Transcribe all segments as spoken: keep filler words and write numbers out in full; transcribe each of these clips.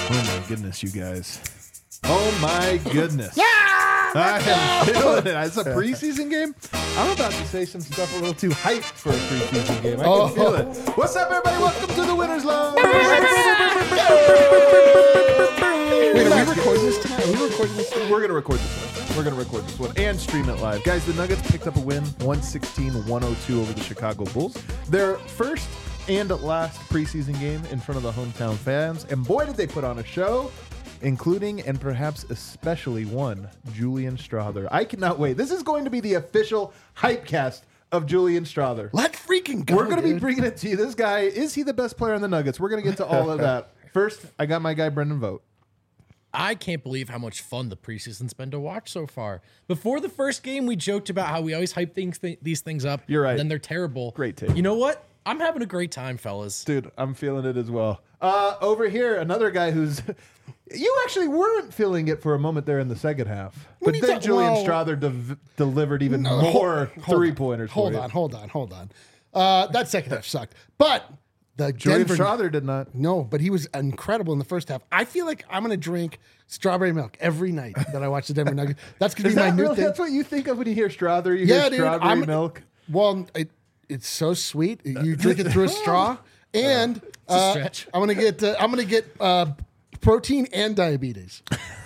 Oh my goodness, you guys. Oh my goodness. Yeah! I am feeling it. It's a preseason game. I'm about to say some stuff a little too hyped for a preseason game. I can Oh. feel it. What's up, everybody? Welcome to the Winners Lounge. Wait, are we recording this tonight? Are we recording this tonight? We're going to record this one. We're going to record this one and stream it live. Guys, the Nuggets picked up a win, one sixteen to one oh two over the Chicago Bulls. Their first and last preseason game in front of the hometown fans. And boy, did they put on a show, including and perhaps especially one, Julian Strawther. I cannot wait. This is going to be the official hype cast of Julian Strawther. Let's freaking go. We're going to be dude. bringing it to you. This guy, is he the best player on the Nuggets? We're going to get to all of that. First, I got my guy, Brendan Vogt. I can't believe how much fun the preseason's been to watch so far. Before the first game, we joked about how we always hype things, th- these things up. You're right. And then they're terrible. Great take. You know what? I'm having a great time, fellas. Dude, I'm feeling it as well. Uh, over here, another guy who's... You actually weren't feeling it for a moment there in the second half. What But are you then ta- Julian well- Strawther de- delivered even No, more hold- hold three-pointers on, Hold for on, you. hold on, hold on. Uh, that second half sucked. But the Julian Denver... Strawther did not. No, but he was incredible in the first half. I feel like I'm going to drink strawberry milk every night that I watch the Denver Nuggets. That's going to Is be my that new really, thing. that's what you think of when you hear Strawther? You Yeah, hear dude. strawberry I'm, milk? Well, it, it's so sweet. You drink it through a straw, and a uh, stretch. I'm gonna get uh, I'm gonna get uh, protein and diabetes.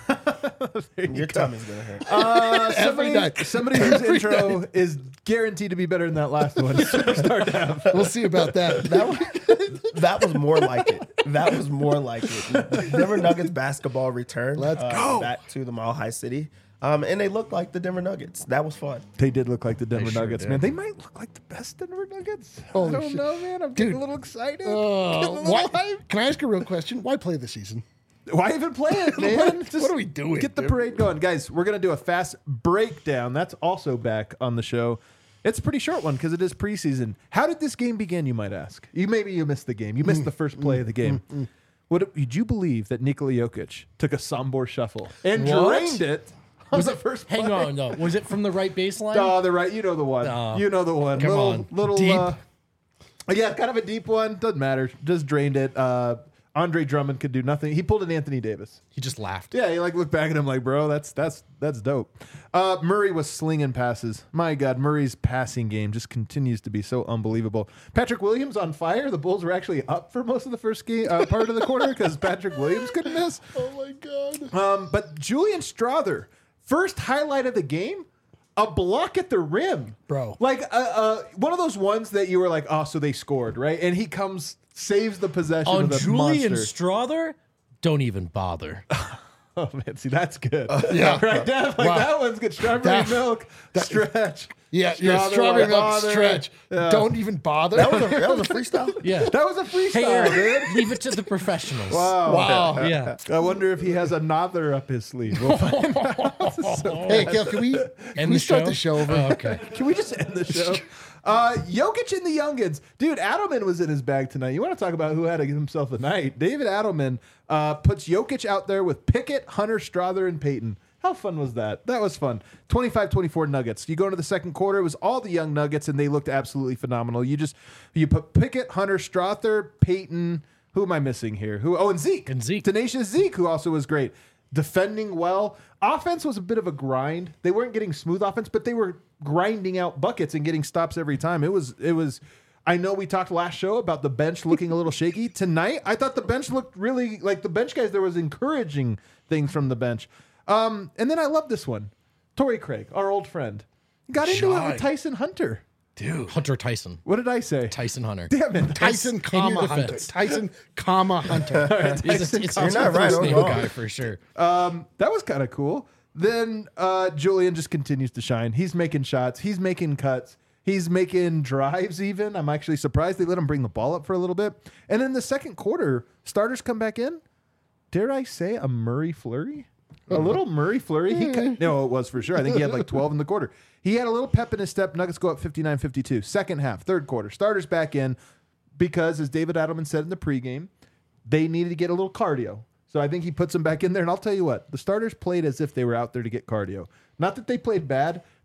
Your tummy's gonna hurt. Uh, Every somebody, night. somebody whose intro is guaranteed to be better than that last one. Superstar Dev. We'll see about that. That was, that was more like it. That was more like it. Denver Nuggets basketball return. Let's uh, go. back to the Mile High City, um, and they looked like the Denver Nuggets. That was fun. They did look like the Denver sure Nuggets, did. man. They might look like the best Denver Nuggets. Holy I don't shit. know, man. I'm getting Dude. a little excited. Uh, Getting a little why, hyped. can I ask a real question? Why play this season? Why even play it, man? What- Just what are we doing, Get the dude? parade going. Guys, we're going to do a fast breakdown. That's also back on the show. It's a pretty short one because it is preseason. How did this game begin, you might ask? You Maybe you missed the game. You missed the first play of the game. What, did you believe that Nikola Jokic took a Sombor shuffle and What? drained it on Was the it first play? Hang on, no. Was it from the right baseline? Oh, the right. You know the one. No. You know the one. Come little, on. Little, Deep. Uh, yeah, kind of a deep one. Doesn't matter. Just drained it. Uh, Andre Drummond could do nothing. He pulled an Anthony Davis. He just laughed. Yeah, he like looked back at him like, bro, that's that's that's dope. Uh, Murray was slinging passes. My God, Murray's passing game just continues to be so unbelievable. Patrick Williams on fire. The Bulls were actually up for most of the first game uh, part of the quarter because Patrick Williams couldn't miss. Oh my god! Um, but Julian Strawther, first highlight of the game, a block at the rim, Bro. Like uh, uh, one of those ones that you were like, oh, so they scored, right? And he comes, saves the possession On with a Julian monster. Strawther, don't even bother. Oh man, see that's good. yeah. right, Dev, like Wow. that one's good. Strawberry That- milk, stretch. Yeah, yeah. Strawberry Strawberry milk bother. stretch. Yeah. Don't even bother. That was a, that was a freestyle. Yeah. That was a freestyle, Hey, Aaron, dude. leave it to the professionals. Wow. Wow. Yeah. I wonder if he has another up his sleeve. We'll find out. So- Hey, Gail, can we, can End we the start show? the show over? Oh, okay. Can we just end the show? Uh, Jokic and the Youngins. Dude, Adelman was in his bag tonight. You want to talk about who had himself a night? David Adelman uh, puts Jokic out there with Pickett, Hunter, Strawther, and Peyton. How fun was that? That was fun. twenty-five twenty-four Nuggets. You go into the second quarter, it was all the young Nuggets, and they looked absolutely phenomenal. You just, you put Pickett, Hunter, Strawther, Peyton. Who am I missing here? Who? Oh, and Zeke. And Zeke. Tenacious Zeke, who also was great. Defending well. Offense was a bit of a grind. They weren't getting smooth offense, but they were grinding out buckets and getting stops every time. It was, it was, I know we talked last show about the bench looking a little shaky. Tonight, I thought the bench looked really, like the bench guys, there was encouraging things from the bench. Um, and then I love this one. Torrey Craig, our old friend, got into it Shy. with Tyson Hunter. Dude. Hunter Tyson. What did I say? Tyson Hunter. Damn it. Tyson, In your comma, Hunter. defense. Tyson, comma, Hunter. It's, a, it's, You're it's not a right, first I'm name wrong. guy for sure. Um, that was kind of cool. Then uh, Julian just continues to shine. He's making shots. He's making cuts. He's making drives even. I'm actually surprised they let him bring the ball up for a little bit. And in the second quarter, starters come back in. Dare I say a Murray flurry? A little Murray flurry. He ca- no, it was for sure. I think he had like twelve in the quarter. He had a little pep in his step. Nuggets go up fifty-nine fifty-two. Second half, third quarter. Starters back in because, as David Adelman said in the pregame, they needed to get a little cardio. So I think he puts them back in there. And I'll tell you what, the starters played as if they were out there to get cardio. Not that they played bad.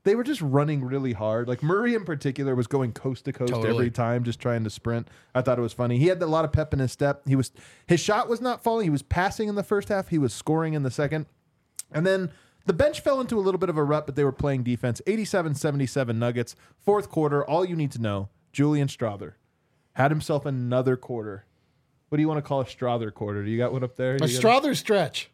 they were just running really hard. Like Murray in particular was going coast to coast Totally. every time, just trying to sprint. I thought it was funny. He had a lot of pep in his step. He was his shot was not falling. He was passing in the first half. He was scoring in the second. And then the bench fell into a little bit of a rut, but they were playing defense. eighty-seven seventy-seven Nuggets. Fourth quarter, all you need to know, Julian Strawther had himself another quarter. What do you want to call a Strawther quarter? Do you got one up there? A You got- Strawther stretch.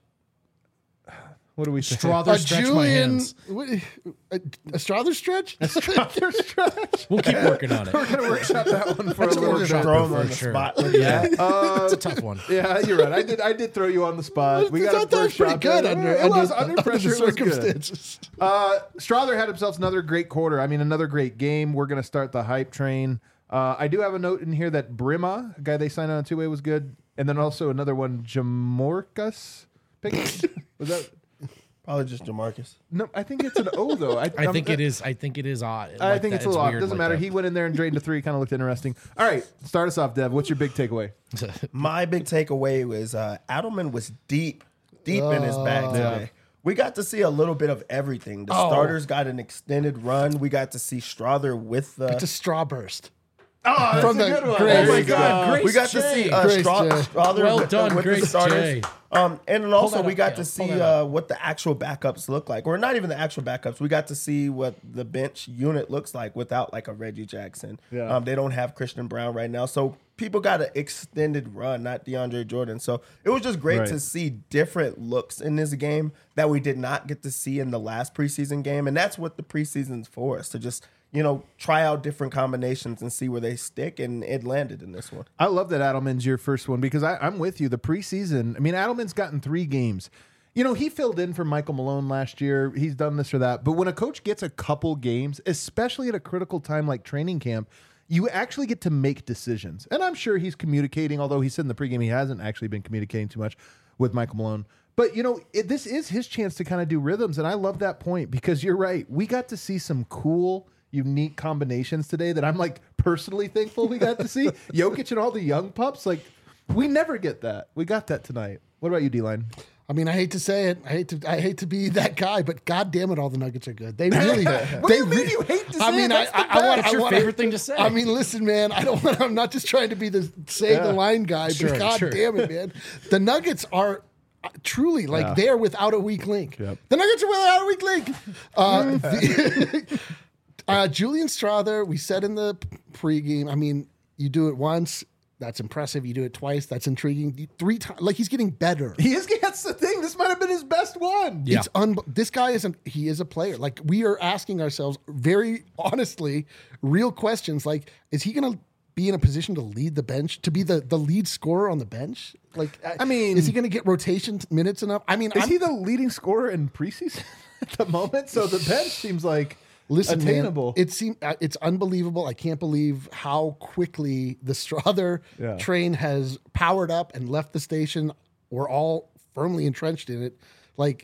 What do we say? Strawther A stretch my Julian. hands. what- A, a Strawther stretch? Strawther stretch. We'll keep working on it. We're gonna workshop that one for a That's a little workshop. bit. Throw him for on the sure. spot. Like Yeah, that. Uh, it's a tough one. yeah, you're right. I did. I did throw you on the spot. We I got thought that was pretty good under, It under, was under under pressure. the It was good. circumstances. Uh, Strawther had himself another great quarter. I mean, another great game. We're going to start the hype train. Uh, I do have a note in here that Brima, a guy they signed on a two-way, was good. And then also another one, Jamorcus. Pickens? Was that? Probably just Jamarcus. No, I think it's an O, though. I, I I'm- think it is. I think it is odd. I like think that. it's a lot. weird Doesn't like matter. that. He went in there and drained a three. Kind of looked interesting. All right, start us off, Dev. What's your big takeaway? My big takeaway was uh, Adelman was deep, deep in his bag today. We got to see a little bit of everything. The Oh. starters got an extended run. We got to see Strawther with the. It's a straw burst. Oh, that's From a the good one. Grace- oh my uh, God. Grace we got to J. see uh, Grace Straw, J. Strawther Well with, done, the, with the Grace starters. J. Um, and then also that we up, got Kale. to Pull see that uh, what the actual backups look like, or not even the actual backups. We got to see what the bench unit looks like without like a Reggie Jackson. Yeah. Um, they don't have Christian Brown right now, so people got an extended run, not DeAndre Jordan. So it was just great Right. to see different looks in this game that we did not get to see in the last preseason game, and that's what the preseason's for us to just you know try out different combinations and see where they stick, and it landed in this one. I love that Adelman's your first one because I, I'm with you. The preseason, I mean, Adelman's gotten three games. You know, he filled in for Michael Malone last year. He's done this or that. But when a coach gets a couple games, especially at a critical time like training camp, you actually get to make decisions. And I'm sure he's communicating, although he said in the pregame he hasn't actually been communicating too much with Michael Malone. But, you know, it, this is his chance to kind of do rhythms. And I love that point because you're right. We got to see some cool, unique combinations today that I'm like personally thankful we got to see. Jokic and all the young pups, like we never get that. We got that tonight. What about you, D-Line? I mean, I hate to say it. I hate to. I hate to be that guy, but God damn it, all the Nuggets are good. They really. What they do you mean re- you hate to say I mean, it? I, That's the I, I want. It's I your want, favorite thing to say. I mean, listen, man. I don't. want I'm not just trying to be the save Yeah. the line guy, Sure, but God sure. damn it, man. The Nuggets are. uh, Truly, like Yeah. they are without a weak link. Yep. The Nuggets are without a weak link. Uh, the- uh, Julian Strawther, we said in the pregame. I mean, you do it once, that's impressive. You do it twice, that's intriguing. You- Three times, like he's getting better. He is. That's the thing. This might have been his best one. Yeah. It's un- this guy isn't. He is a player. Like we are asking ourselves very honestly, real questions. Like, is he going to be in a position to lead the bench, to be the the lead scorer on the bench? Like, I mean- is he going to get rotation t- minutes enough? I mean, Is I'm, he the leading scorer in preseason at the moment? So the bench seems like listen, attainable. man. It seems uh, it's unbelievable. I can't believe how quickly the Strawther Yeah. train has powered up and left the station. We're all firmly entrenched in it. Like.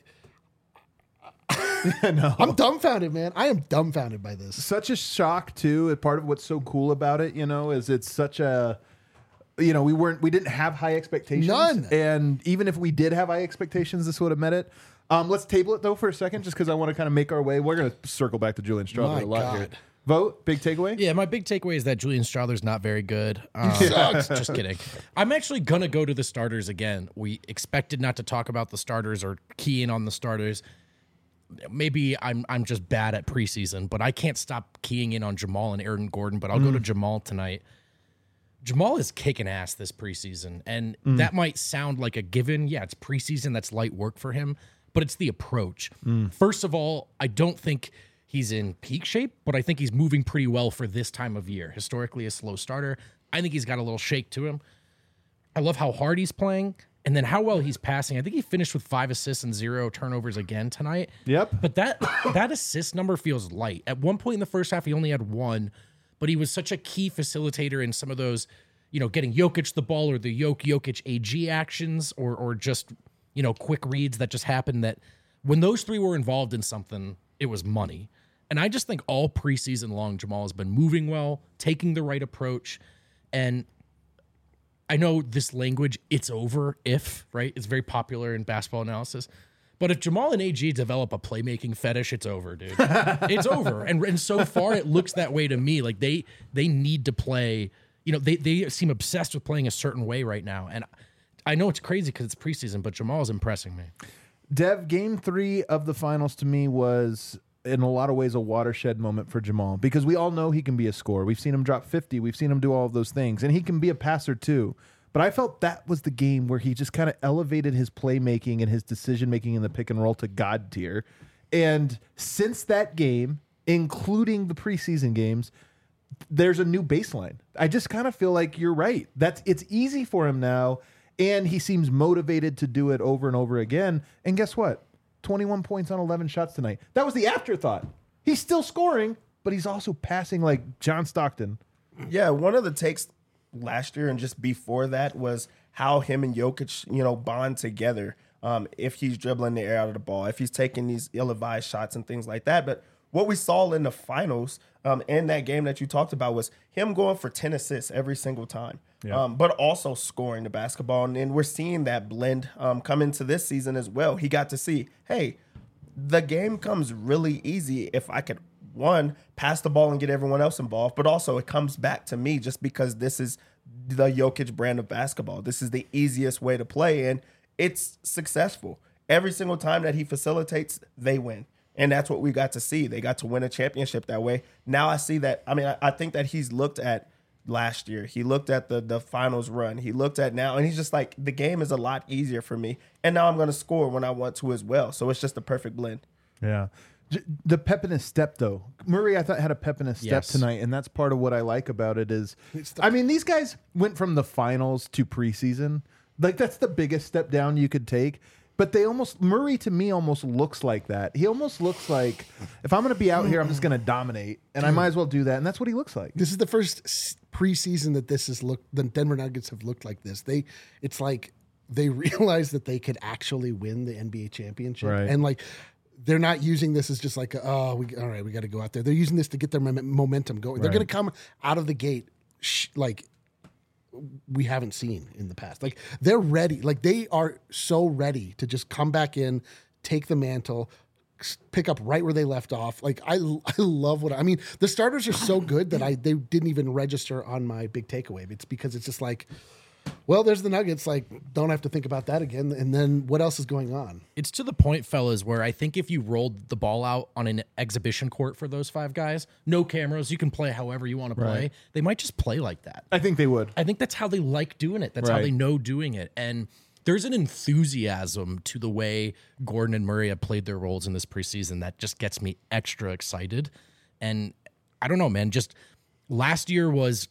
I'm dumbfounded, man. I am dumbfounded by this. Such a shock too. And part of what's so cool about it, you know, is it's such a, you know, we weren't, we didn't have high expectations. None. And even if we did have high expectations, this would have met it. Um, let's table it though for a second, just because I want to kind of make our way. We're going to circle back to Julian Strawther My a lot here. God. Vote, big takeaway. Yeah, my big takeaway is that Julian Strawther's not very good. Um, sucks. Just kidding. I'm actually gonna go to the starters again. We expected not to talk about the starters or key in on the starters. Maybe I'm I'm just bad at preseason, but I can't stop keying in on Jamal and Aaron Gordon. But I'll go to Jamal tonight. Jamal is kicking ass this preseason, and that might sound like a given. Yeah, it's preseason. That's light work for him, but it's the approach. First of all, I don't think he's in peak shape, but I think he's moving pretty well for this time of year. Historically, a slow starter. I think he's got a little shake to him. I love how hard he's playing and then how well he's passing. I think he finished with five assists and zero turnovers again tonight. Yep. But that that assist number feels light. At one point in the first half, he only had one, but he was such a key facilitator in some of those, you know, getting Jokic the ball or the Yoke Jokic A G actions or or just, you know, quick reads that just happened that when those three were involved in something, it was money. And I just think all preseason long, Jamal has been moving well, taking the right approach. And I know this language, it's over if, right? It's very popular in basketball analysis. But if Jamal and A G develop a playmaking fetish, it's over, dude. It's over. And and so far, it looks that way to me. Like they they need to play. You know, they they seem obsessed with playing a certain way right now. And I know it's crazy because it's preseason, but Jamal's impressing me. Dev, game three of the finals to me was, in a lot of ways, a watershed moment for Jamal because we all know he can be a scorer. We've seen him drop fifty. We've seen him do all of those things. And he can be a passer too. But I felt that was the game where he just kind of elevated his playmaking and his decision-making in the pick and roll to God tier. And since that game, including the preseason games, there's a new baseline. I just kind of feel like you're right. That's it's easy for him now, and he seems motivated to do it over and over again. And guess what? twenty-one points on eleven shots tonight. That was the afterthought. He's still scoring, but he's also passing like John Stockton. Yeah, one of the takes last year and just before that was how him and Jokic, you know, bond together. Um, if he's dribbling the air out of the ball, if he's taking these ill-advised shots and things like that. But what we saw in the finals um, in that game that you talked about was him going for ten assists every single time, Yeah. um, but also scoring the basketball. And, and we're seeing that blend um, come into this season as well. He got to see, hey, the game comes really easy if I could, one, pass the ball and get everyone else involved, but also it comes back to me just because this is the Jokic brand of basketball. This is the easiest way to play, and it's successful. Every single time that he facilitates, they win. And that's what we got to see. They got to win a championship that way. Now I see that. I mean, I, I think that he's looked at last year. He looked at the the finals run. He looked at now, and he's just like, the game is a lot easier for me. And now I'm going to score when I want to as well. So it's just a perfect blend. Yeah. J- The pep in his step, though. Murray, I thought, had a pep in his step Yes. tonight, and that's part of what I like about it is, It's the- I mean, these guys went from the finals to preseason. Like, that's the biggest step down you could take. But they almost, Murray to me almost looks like that. He almost looks like, if I'm going to be out here, I'm just going to dominate, and I might as well do that. And that's what he looks like. This is the first s- preseason that this has looked. The Denver Nuggets have looked like this. They, it's like they realize that they could actually win the N B A championship, Right. and like they're not using this as just like, oh, we all right, we got to go out there. They're using this to get their mom- momentum going. They're Right. going to come out of the gate sh- like we haven't seen in the past. Like they're ready. Like they are so ready to just come back in, take the mantle, s- pick up right where they left off. Like I, I love what I mean. The starters are so good that I they didn't even register on my big takeaway. It's because it's just like, well, there's the Nuggets. Like don't have to think about that again. And then what else is going on? It's to the point, fellas, where I think if you rolled the ball out on an exhibition court for those five guys, no cameras, you can play however you want to play. Right. They might just play like that. I think they would. I think that's how they like doing it. That's how Right. they know doing it. And there's an enthusiasm to the way Gordon and Murray have played their roles in this preseason that just gets me extra excited. And I don't know, man, just last year was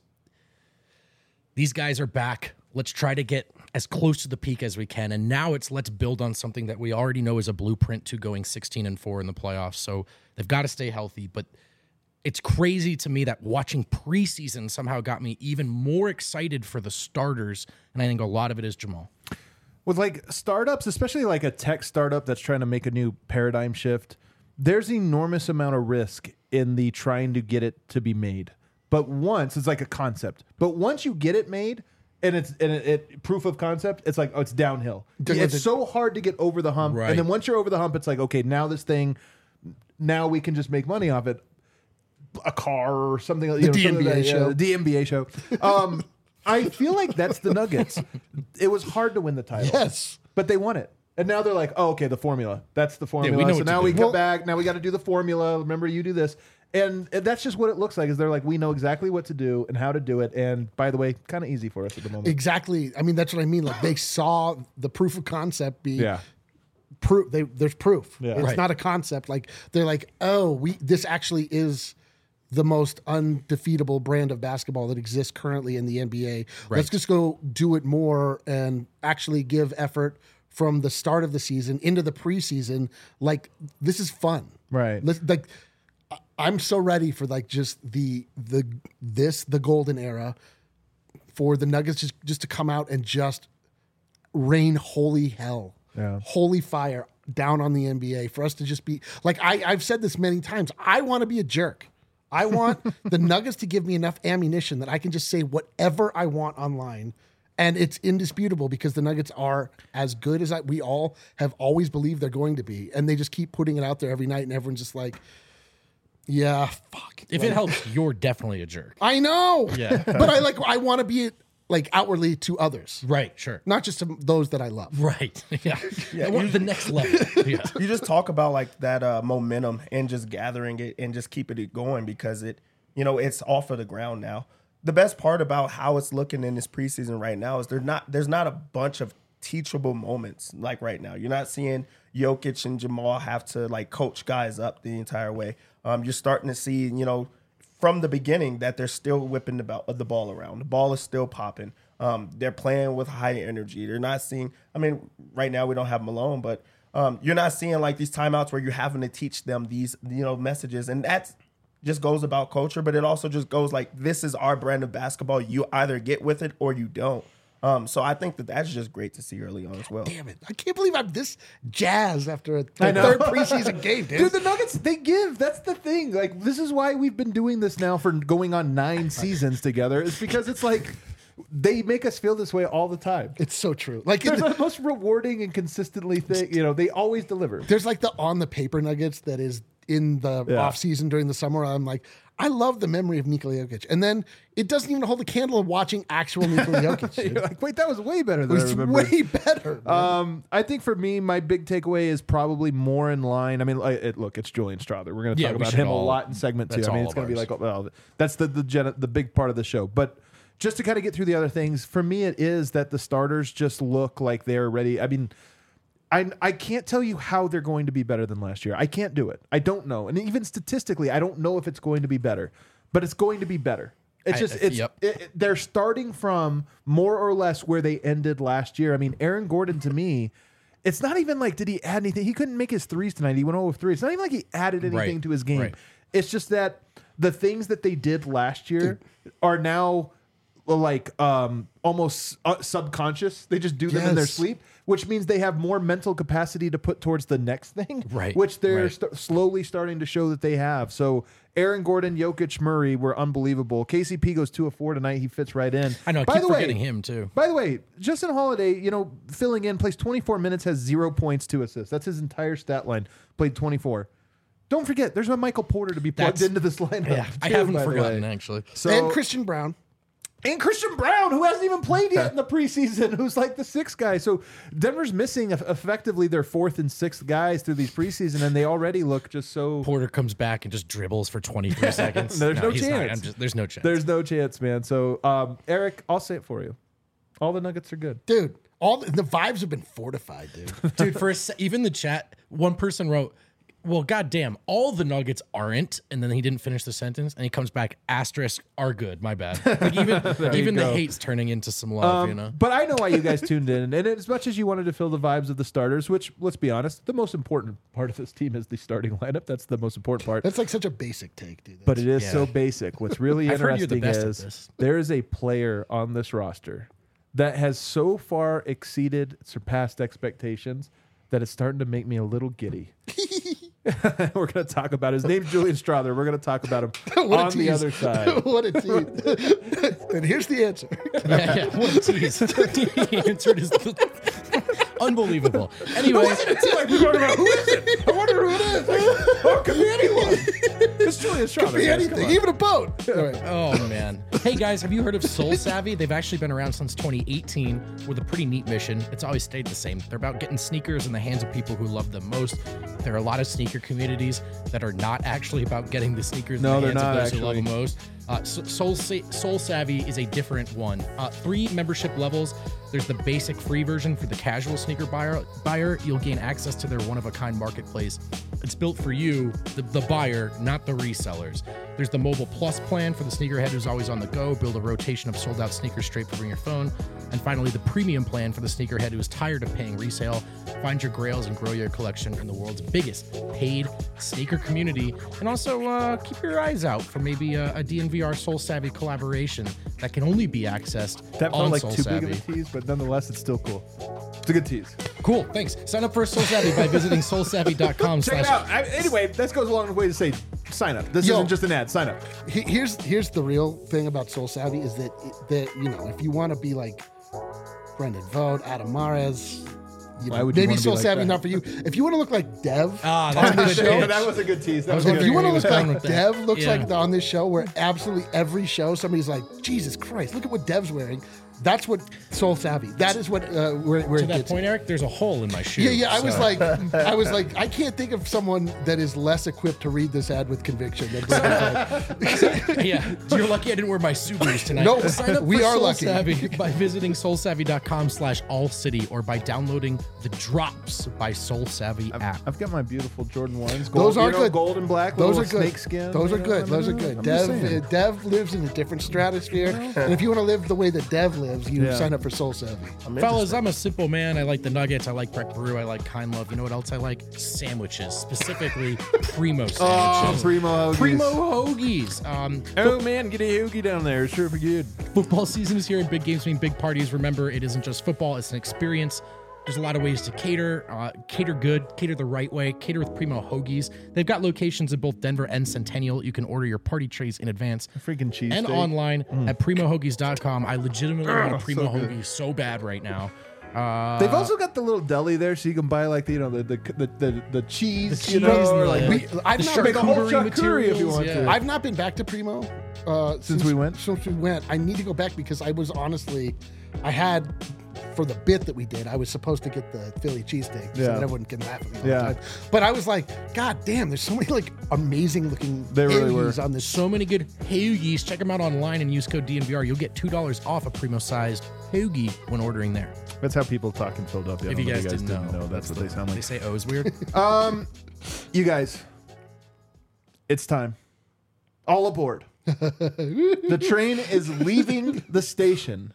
these guys are back. Let's try to get as close to the peak as we can. And now it's let's build on something that we already know is a blueprint to going sixteen and four in the playoffs. So they've got to stay healthy. But it's crazy to me that watching preseason somehow got me even more excited for the starters. And I think a lot of it is Jamal. With like startups, especially like a tech startup that's trying to make a new paradigm shift, there's enormous amount of risk in the trying to get it to be made. But once it's like a concept, but once you get it made and it's and it, it proof of concept, it's like, oh, it's downhill. Does It's it- so hard to get over the hump. Right. And then once you're over the hump, it's like, okay, now this thing, now we can just make money off it. A car or something. You know, D N B A something like that, yeah, show. the D N B A show. Um, I feel like that's the Nuggets. It was hard to win the title. Yes. But they won it. And now they're like, oh, okay, the formula. That's the formula. know so what to now do. we Well- come back. Now we got to do the formula. Remember, you do this. And that's just what it looks like is they're like, we know exactly what to do and how to do it. And by the way, kind of easy for us at the moment. Exactly. I mean, that's what I mean. Like they saw the proof of concept be Yeah. proof. They there's proof. Yeah. It's Right. not a concept. Like they're like, oh, we this actually is the most undefeatable brand of basketball that exists currently in the N B A. Let's Right. just go do it more and actually give effort from the start of the season into the preseason. Like this is fun. Right. Let's, like I- I'm so ready for like just the the this the golden era for the Nuggets just just to come out and just rain holy hell, Yeah. holy fire down on the N B A for us to just be like I, I've said this many times. I want to be a jerk. I want the Nuggets to give me enough ammunition that I can just say whatever I want online And it's indisputable because the Nuggets are as good as I, we all have always believed they're going to be. And they just keep putting it out there every night. And everyone's just like, yeah, fuck. If Like, it helps, you're definitely a jerk. I know. Yeah. But I like, I want to be like outwardly to others, Right, sure. not just to those that I love. Right. Yeah. I want the next level. Yeah. You just talk about like that uh, momentum and just gathering it and just keeping it going because it, you know, it's off of the ground now. The best part about how it's looking in this preseason right now is there's not there's not a bunch of teachable moments like right now. You're not seeing Jokic and Jamal have to like coach guys up the entire way. Um, you're starting to see, you know, from the beginning that they're still whipping the, ball, the ball around. The ball is still popping. Um, they're playing with high energy. They're not seeing, I mean, right now we don't have Malone, but um, you're not seeing like these timeouts where you're having to teach them these, you know, messages. And that's just goes about culture, but it also just goes like, this is our brand of basketball. You either get with it or you don't. Um, so I think that that's just great to see early on as well. Damn it. I can't believe I'm this jazzed after a I the know. third preseason game, dude. Dude, the Nuggets, they give. That's the thing. Like, this is why we've been doing this now for going on nine seasons together. It's because it's like they make us feel this way all the time. It's so true. Like They're it- the most rewarding and consistently thing. You know, they always deliver. there's like the on the paper Nuggets that is in the Yeah. off season during the summer. I'm like, I love the memory of Nikola Jokic, and then it doesn't even hold a candle of watching actual Nikola Jokic. Dude. You're like, wait, that was way better It than I was remember. way better. man. Um, I think for me, my big takeaway is probably more in line. I mean, like, it, look, it's Julian Strawther. We're going to Yeah, talk we about should him a all- lot in segment two. that's I mean, all it's of going to be ours. like, well, that's the the, gen- the big part of the show. But just to kind of get through the other things, for me, it is that the starters just look like they're ready. I mean, I I can't tell you how they're going to be better than last year. I can't do it. I don't know. And even statistically, I don't know if it's going to be better, but it's going to be better. It's I- just it's yep. it, it- they're starting from more or less where they ended last year. I mean, Aaron Gordon to me, it's not even like did he add anything? He couldn't make his threes tonight. He went over three. It's not even like he added anything Right, to his game. right. It's just that the things that they did last year are now like um almost uh, subconscious. They just do them in their Yes. sleep, which means they have more mental capacity to put towards the next thing, Right, which they're right. st- slowly starting to show that they have. So Aaron Gordon, Jokic, Murray were unbelievable. K C P goes two of four tonight. He fits right in. I know. I By keep the way, forgetting him, too. By the way, Justin Holiday, you know, filling in, plays twenty-four minutes, has zero points, two assists. That's his entire stat line. Played twenty-four. Don't forget, there's a Michael Porter to be plugged That's- into this lineup. Yeah, I too, haven't by the forgotten, way. actually. So, and Christian Brown. and Christian Brown, who hasn't even played yet in the preseason, who's like the sixth guy. So Denver's missing eff- effectively their fourth and sixth guys through these preseason, and they already look just so. Porter comes back and just dribbles for twenty-three seconds. There's no he's not. chance. I'm just, there's no chance. There's no chance, man. So um, Eric, I'll say it for you. All the Nuggets are good. Dude, all the, the vibes have been fortified, dude. Dude, for a se- even the chat, one person wrote, well, goddamn, all the Nuggets aren't, and then he didn't finish the sentence, and he comes back, asterisk, are good, my bad. Like even even the go. hate's turning into some love, you know? But I know why you guys tuned in. And as much as you wanted to feel the vibes of the starters, which, let's be honest, the most important part of this team is the starting lineup. That's the most important part. That's like such a basic take, dude. But it is Yeah. so basic. What's really I've heard you're the interesting best at is this. there is a player on this roster that has so far exceeded, surpassed expectations that it's starting to make me a little giddy. We're going to talk about his name's Julian Strawther. We're going to talk about him What a on the tease. other side. What a tease. And here's the answer. Yeah, yeah, what a tease. He answered his. Unbelievable. Anyway, Like, we're talking about who is it? I wonder who it is. Like, oh, it could be anyone. It's Julian Strawther. Be guys. Come anything, on. even a boat. All right. oh man. Hey guys, have you heard of Soul Savvy? They've actually been around since twenty eighteen with a pretty neat mission. It's always stayed the same. They're about getting sneakers in the hands of people who love them most. There are a lot of sneaker communities that are not actually about getting the sneakers No, in the they're hands not, of those who love actually. them most. Uh, So- Soul, Sa- Soul Savvy is a different one. Uh, three membership levels. There's the basic free version for the casual sneaker buyer. Buyer, you'll gain access to their one-of-a-kind marketplace. It's built for you, the, the buyer, not the resellers. There's the Mobile Plus plan for the sneakerhead who's always on the go. Build a rotation of sold-out sneakers straight from your phone. And finally, the premium plan for the sneakerhead who is tired of paying resale. Find your grails and grow your collection in the world's biggest paid sneaker community. And also uh, keep your eyes out for maybe a, a D N V R Soul Savvy collaboration that can only be accessed That on felt like Soul too Savvy. big of a tease, but nonetheless, it's still cool. It's a good tease. Cool, thanks. Sign up for Soul Savvy by visiting soul savvy dot com. Check it out. I, anyway, that goes a long way to say sign up. This Yo. isn't just an ad. Sign up. He- Here's here's the real thing about Soul Savvy is that that you know if you want to be like Brendan Vogt, Adam Mares. You Why know, would you maybe wanna be Soul like Savvy that? not for you. If you want to look like Dev Ah, that's on a this good show, pitch. that was a good tease. That I was was a if good you want to he was look going like with that. Dev looks Yeah. like on this show, where absolutely every show somebody's like, Jesus Christ, look at what Dev's wearing. That's what Soul Savvy. That is what uh, where, where To it that gets. point, Eric, there's a hole in my shoe. Yeah, yeah. I was so- like, I was like, I can't think of someone that is less equipped to read this ad with conviction than Brendan. yeah, you're lucky I didn't wear my Subarus tonight. No, Sign up we for are Soul lucky. Savvy by visiting soul savvy dot com slash all city or by downloading the Drops by Soul Savvy app. I've got my beautiful Jordan ones. Those Gold, are you know, good. gold and black. Those little are good. Snake skin. Those are you know, good. I Those are don't know. good. I'm Dev, just saying. uh, Dev lives in a different stratosphere, and if you want to live the way that Dev lives, you Yeah. sign up for Soul Savvy. I'm Fellas, I'm a simple man. I like the nuggets. I like Breck Brew. I like Kind Love. You know what else I like? Sandwiches, specifically Primo Oh, sandwiches. Primo Hoagies. Primo Hoagies. Um, Oh man, get a hoagie down there. Sure for good. Football season is here and big games mean big parties. Remember, it isn't just football, it's an experience. There's a lot of ways to cater. Uh, cater good, cater the right way, cater with Primo Hoagies. They've got locations in both Denver and Centennial. You can order your party trays in advance. Freaking cheese And steak. online at primo hoagies dot com. I legitimately want a Primo so good. Hoagie so bad right now. Uh, They've also got the little deli there, so you can buy like the, you know the the the, the, the cheese, The you know, cheese and or the- like Yeah. we, We, I've, the not been, make a whole charcuterie charcuterie if you materials, want yeah. to. I've not been back to Primo uh, since, we went? Since we went, I need to go back because I was honestly, I had for the bit that we did, I was supposed to get the Philly cheesesteak so Yeah. that everyone can laugh at me all Yeah. the time. But I was like, God damn, there's so many like amazing looking They really hoagies were. on this. so many good hoagies. Check them out online and use code D N V R. You'll get two dollars off a Primo sized hoagie when ordering there. That's how people talk in Philadelphia. I If don't you know guys, didn't, know, that's, what the- they sound They like. say O's weird. Um, you guys, it's time. All aboard. The train is leaving the station.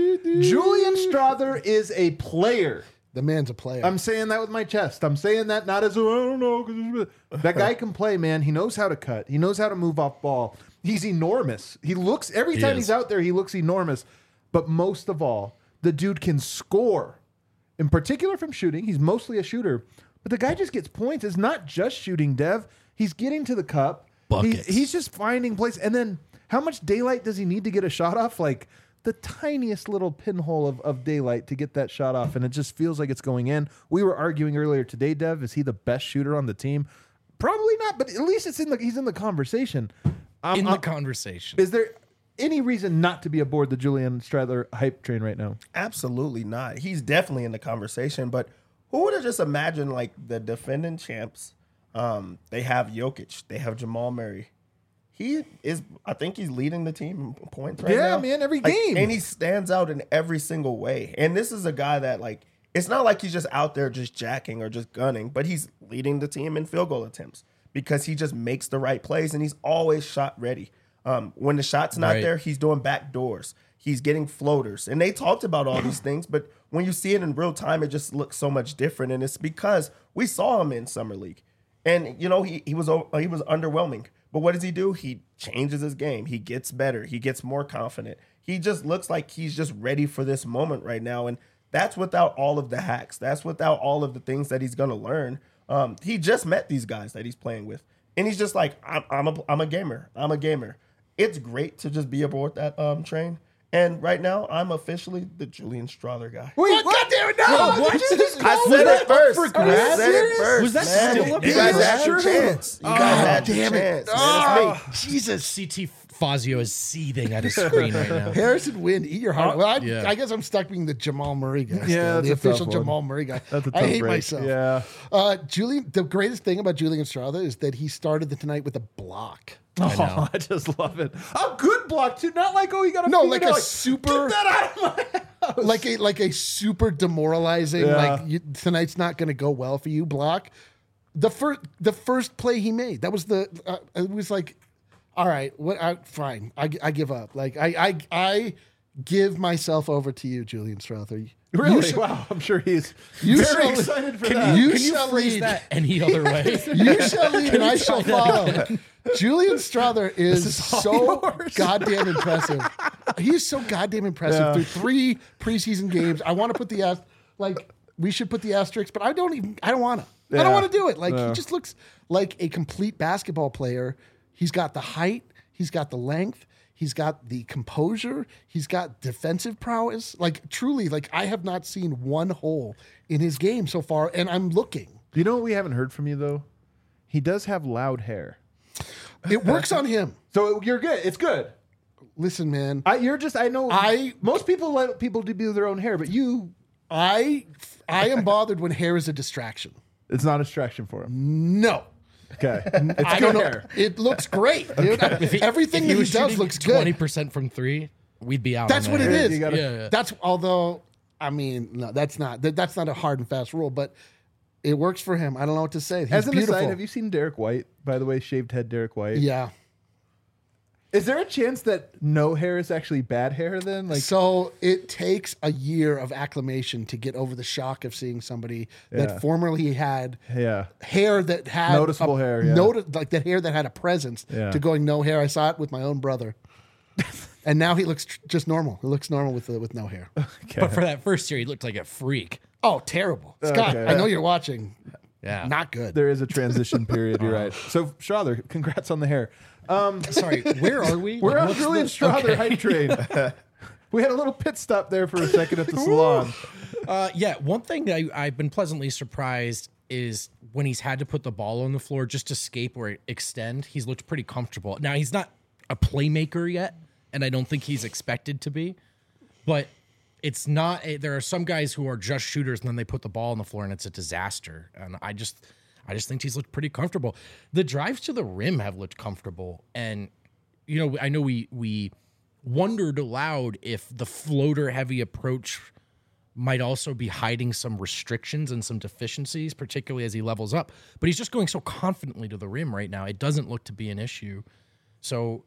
Julian Strother is a player. The man's a player. I'm saying that with my chest. I'm saying that not as a, I don't know. 'cause it's- That guy can play, man. He knows how to cut. He knows how to move off ball. He's enormous. He looks, every He time is. he's out there, he looks enormous. But most of all, the dude can score. In particular from shooting. He's mostly a shooter. But the guy just gets points. It's not just shooting, Dev. He's getting to the cup. He- Buckets. he's just finding place. And then how much daylight does he need to get a shot off? Like the tiniest little pinhole of, of daylight to get that shot off. And it just feels like it's going in. We were arguing earlier today, Dev. Is he the best shooter on the team? Probably not, but at least it's in the he's in the conversation. Um, In the um, conversation. is there any reason not to be aboard the Julian Stradler hype train right now? Absolutely not. He's definitely in the conversation, but who would have just imagined like the defending champs? Um, they have Jokic, they have Jamal Murray. He is, I think he's leading the team in points right Yeah, now. man, every Like, game. and he stands out in every single way. And this is a guy that like, it's not like he's just out there just jacking or just gunning, but he's leading the team in field goal attempts because he just makes the right plays and he's always shot ready. Um, when the shot's not Right. there, he's doing back doors. He's getting floaters. And they talked about all these things, but when you see it in real time, it just looks so much different. And it's because we saw him in Summer League. And, you know, he, he was o- he was underwhelming. But what does he do? He changes his game. He gets better. He gets more confident. He just looks like he's just ready for this moment right now. And that's without all of the hacks. That's without all of the things that he's going to learn. Um, he just met these guys that he's playing with. And he's just like, I'm, I'm, a, I'm a gamer. I'm a gamer. It's great to just be aboard that um, train. And right now, I'm officially the Julian Strother guy. Wait, God damn it, no! What? Did you just I call said me it first. for I grabs? said it first. Was that man. still up You there? guys had Sure. your chance. You guys God had your damn it. chance. Man, it's me. Jesus. C T Fazio is seething at his screen right now. Harrison Wind, eat your heart. Well, I, Yeah. I guess I'm stuck being the Jamal Murray guy. Yeah, still, that's the a tough official one. Jamal Murray guy. That's a I tough hate break. myself. Yeah. Uh, Julian, the greatest thing about Julian Strother is that he started the tonight with a block. I know. Oh, I just love it. A good block too, not like oh you got to No, like a super- Get that out of my house. like a like a super demoralizing, Yeah. like you, tonight's not going to go well for you block. The first the first play he made, that was the uh, it was like, all right, what? I, fine, I, I give up. Like I I I give myself over to you, Julian Strother. You Really? should- Wow, I'm sure he's You very shall- excited for Can that. you Can you shall phrase lead. that any other way? You shall lead and I shall follow. Julian Strother is, is all so yours. goddamn impressive. He's so goddamn impressive Yeah. through three preseason games. I want to put the ast- like we should put the asterisks, but I don't even I don't want to. I Yeah. don't want to do it. Like Yeah. he just looks like a complete basketball player. He's got the height, he's got the length, He's got the composure. He's got defensive prowess. Like truly, like I have not seen one hole in his game so far, and I'm looking. You know what we haven't heard from you though? He does have loud hair. It works on him. So you're good. It's good. Listen, man. I, you're just. I know. I- most people let people do their own hair, but you. I I am bothered when hair is a distraction. It's not a distraction for him. No. Okay. It's I good don't know. hair. It looks great, dude. Everything that he does looks twenty good. percent from three, we'd be out. That's on what that. it Yeah, is. you gotta- Yeah, yeah. That's although I mean, no, that's not that, that's not a hard and fast rule, but it works for him. I don't know what to say. He's As an beautiful. aside, have you seen Derek White? By the way, shaved head Derek White. Yeah. Is there a chance that no hair is actually bad hair then? Like, So it takes a year of acclimation to get over the shock of seeing somebody Yeah. that formerly had yeah. hair that had Noticeable a, hair, yeah. noti- like that hair that had a presence Yeah. to going no hair. I saw it with my own brother, and now he looks tr- just normal. He looks normal with uh, with no hair. But for that first year, he looked like a freak. Oh, terrible, Scott! Okay. I know you're watching. Yeah. Not good. There is a transition period. You're right. So Strother, congrats on the hair. Um, Sorry, where are we? we're Like, on what's Julian the- Strother okay. hype train. We had a little pit stop there for a second at the salon. Uh, yeah, one thing that I, I've been pleasantly surprised is when he's had to put the ball on the floor just to escape or extend, he's looked pretty comfortable. Now, he's not a playmaker yet, and I don't think he's expected to be, but it's not, a, there are some guys who are just shooters and then they put the ball on the floor and it's a disaster. And I just, I just think he's looked pretty comfortable. The drives to the rim have looked comfortable. And, you know, I know we, we wondered aloud if the floater heavy approach might also be hiding some restrictions and some deficiencies, particularly as he levels up. But he's just going so confidently to the rim right now. It doesn't look to be an issue. So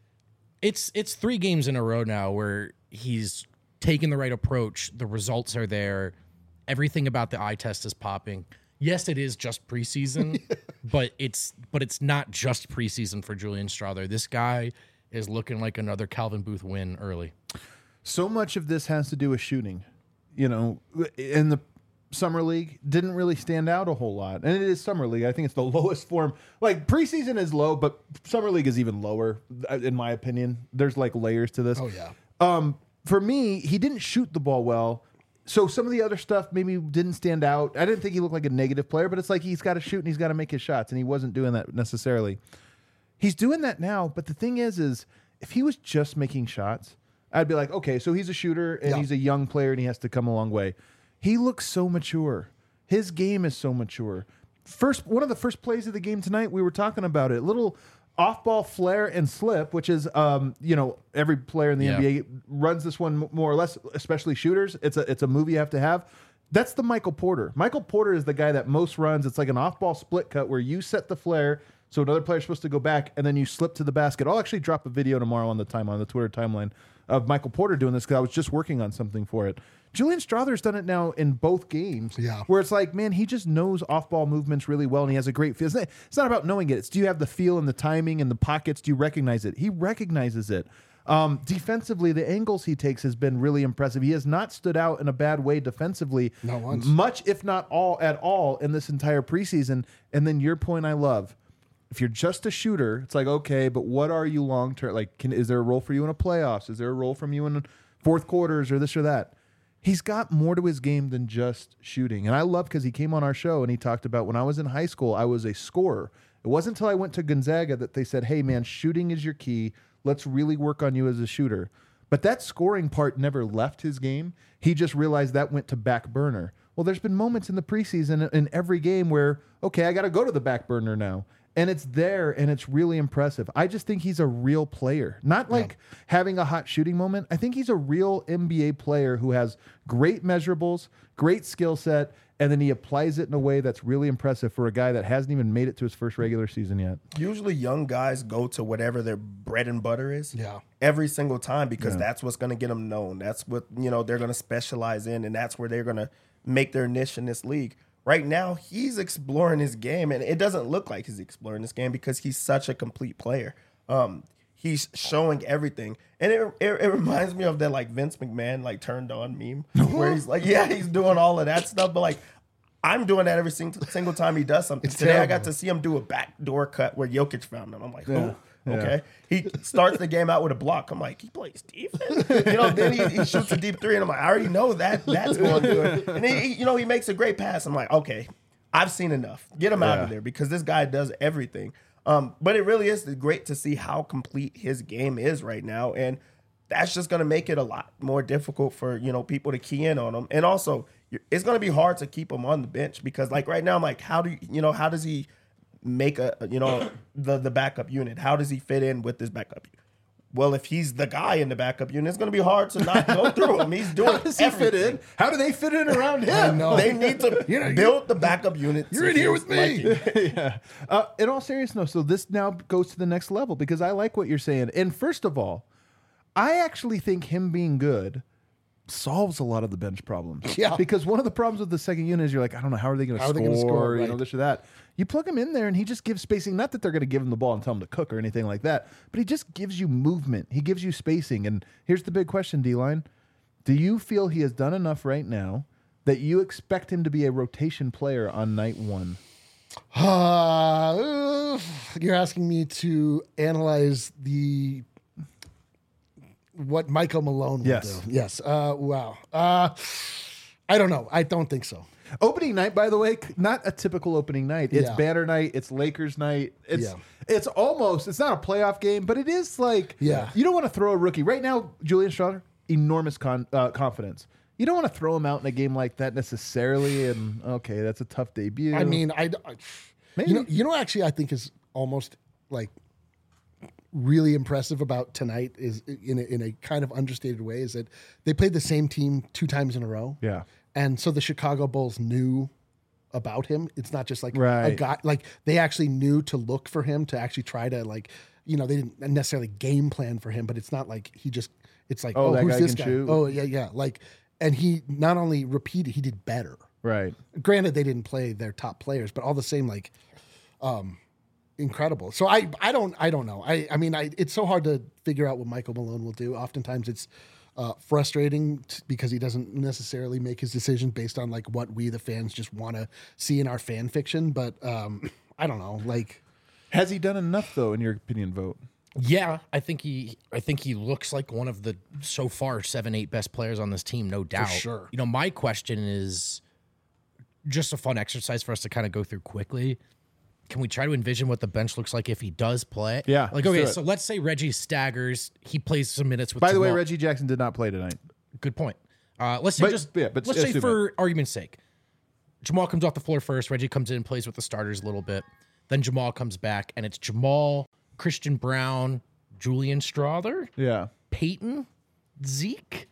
it's it's three games in a row now where he's taken the right approach. The results are there. Everything about the eye test is popping. Yes, it is just preseason, but it's but it's not just preseason for Julian Strother. This guy is looking like another Calvin Booth win early. So much of this has to do with shooting. You know, in the summer league, didn't really stand out a whole lot. And it is summer league. I think it's the lowest form. Like preseason is low, but summer league is even lower, in my opinion. There's like layers to this. Oh yeah. Um, for me, he didn't shoot the ball well. So some of the other stuff maybe didn't stand out. I didn't think he looked like a negative player, but it's like he's got to shoot and he's got to make his shots, and he wasn't doing that necessarily. He's doing that now, but the thing is, is if he was just making shots, I'd be like, okay, so he's a shooter and Yeah. he's a young player and he has to come a long way. He looks so mature. His game is so mature. First, one of the first plays of the game tonight, we were talking about it. Little off-ball flare and slip, which is, um, you know, every player in the Yeah. N B A runs this one more or less, especially shooters. It's a it's a move you have to have. That's the Michael Porter. Michael Porter is the guy that most runs. It's like an off-ball split cut where you set the flare, so another player's supposed to go back, and then you slip to the basket. I'll actually drop a video tomorrow on the time on the Twitter timeline of Michael Porter doing this because I was just working on something for it. Julian Strother's done it now in both games. Yeah. Where it's like, man, he just knows off-ball movements really well, and he has a great feel. It's not, it's not about knowing it. It's do you have the feel and the timing and the pockets? Do you recognize it? He recognizes it. Um, defensively, the angles he takes has been really impressive. He has not stood out in a bad way defensively. Not once. Much, if not all, at all in this entire preseason. And then your point I love. If you're just a shooter, it's like, okay, but what are you long term? Like, can, is there a role for you in a playoffs? Is there a role from you in fourth quarters or this or that? He's got more to his game than just shooting. And I love because he came on our show and he talked about when I was in high school, I was a scorer. It wasn't until I went to Gonzaga that they said, hey, man, shooting is your key. Let's really work on you as a shooter. But that scoring part never left his game. He just realized that went to back burner. Well, there's been moments in the preseason in every game where, okay, I got to go to the back burner now. And it's there, and it's really impressive. I just think he's a real player. Not like yeah. having a hot shooting moment. I think he's a real N B A player who has great measurables, great skill set, and then he applies it in a way that's really impressive for a guy that hasn't even made it to his first regular season yet. Usually young guys go to whatever their bread and butter is yeah. every single time because Yeah. that's what's going to get them known. That's what, you know, they're going to specialize in, and that's where they're going to make their niche in this league. Right now, he's exploring his game, and it doesn't look like he's exploring this game because he's such a complete player. Um, he's showing everything, and it, it it reminds me of that like Vince McMahon like turned on meme where he's like, yeah, he's doing all of that stuff, but like I'm doing that every single single time he does something. It's Today terrible. I got to see him do a backdoor cut where Jokic found him. I'm like, Yeah. oh, Okay. He starts the game out with a block. I'm like, he plays defense? You know, then he, he shoots a deep three, and I'm like, I already know that that's going good. And then, he, you know, he makes a great pass. I'm like, okay, I've seen enough. Get him out Yeah. of there because this guy does everything. Um, but it really is great to see how complete his game is right now. And that's just going to make it a lot more difficult for, you know, people to key in on him. And also, it's going to be hard to keep him on the bench because, like, right now, I'm like, how do you, you know, how does he make a, you know, the, the backup unit? How does he fit in with this backup unit? Well, if he's the guy in the backup unit, it's going to be hard to not go through him. He's doing How does he everything. fit in? How do they fit in around him? I know. They need to You're- build the backup unit. You're to in here his with me. liking. yeah. Uh, in all seriousness, so this now goes to the next level because I like what you're saying. And first of all, I actually think him being good solves a lot of the bench problems. Yeah. Because one of the problems with the second unit is you're like, I don't know, how are they going to How are score? they gonna score, You know, right. this or that. You plug him in there and he just gives spacing. Not that they're going to give him the ball and tell him to cook or anything like that, but he just gives you movement. He gives you spacing. And here's the big question, D-Line. Do you feel he has done enough right now that you expect him to be a rotation player on night one? Uh, you're asking me to analyze the what Michael Malone will Yes. do. Yes. Uh, wow. Uh, I don't know. I don't think so. Opening night, by the way, c- not a typical opening night. It's Yeah. banner night. It's Lakers night. It's Yeah. it's almost. It's not a playoff game, but it is like. Yeah. You don't want to throw a rookie right now. Julian Strawther, enormous con, uh, confidence. You don't want to throw him out in a game like that necessarily. And okay, that's a tough debut. I mean, I, I Maybe. you know, you know, actually, I think is almost like really impressive about tonight is in a, in a kind of understated way is that they played the same team two times in a row. Yeah. And so the Chicago Bulls knew about him. It's not just like a Right. guy, like they actually knew to look for him to actually try to like, you know, they didn't necessarily game plan for him, but it's not like he just, it's like, Oh, oh, that who's guy this can guy? shoot. Oh, yeah, yeah. Like, and he not only repeated, he did better. Right. Granted, they didn't play their top players, but all the same, like, um, incredible. So I, I don't, I don't know. I, I mean, I, it's so hard to figure out what Michael Malone will do. Oftentimes, it's uh, frustrating t- because he doesn't necessarily make his decision based on like what we the fans just want to see in our fan fiction. But um, I don't know, like, Has he done enough though, in your opinion? Vote. Yeah, I think he I think he looks like one of the so far seven, eight best players on this team, no doubt. sure. You know, my question is just a fun exercise for us to kind of go through quickly. Can we try to envision what the bench looks like if he does play? Yeah, Like, let's okay, do it. so let's say Reggie staggers, he plays some minutes with By the way, Jamal. Reggie Jackson did not play tonight. Good point. Uh, let's say But- just yeah, but let's say assume for argument's sake, Jamal comes off the floor first. Reggie comes in and plays with the starters a little bit. Then Jamal comes back, and it's Jamal, Christian Brown, Julian Strawther, Yeah. Peyton, Zeke.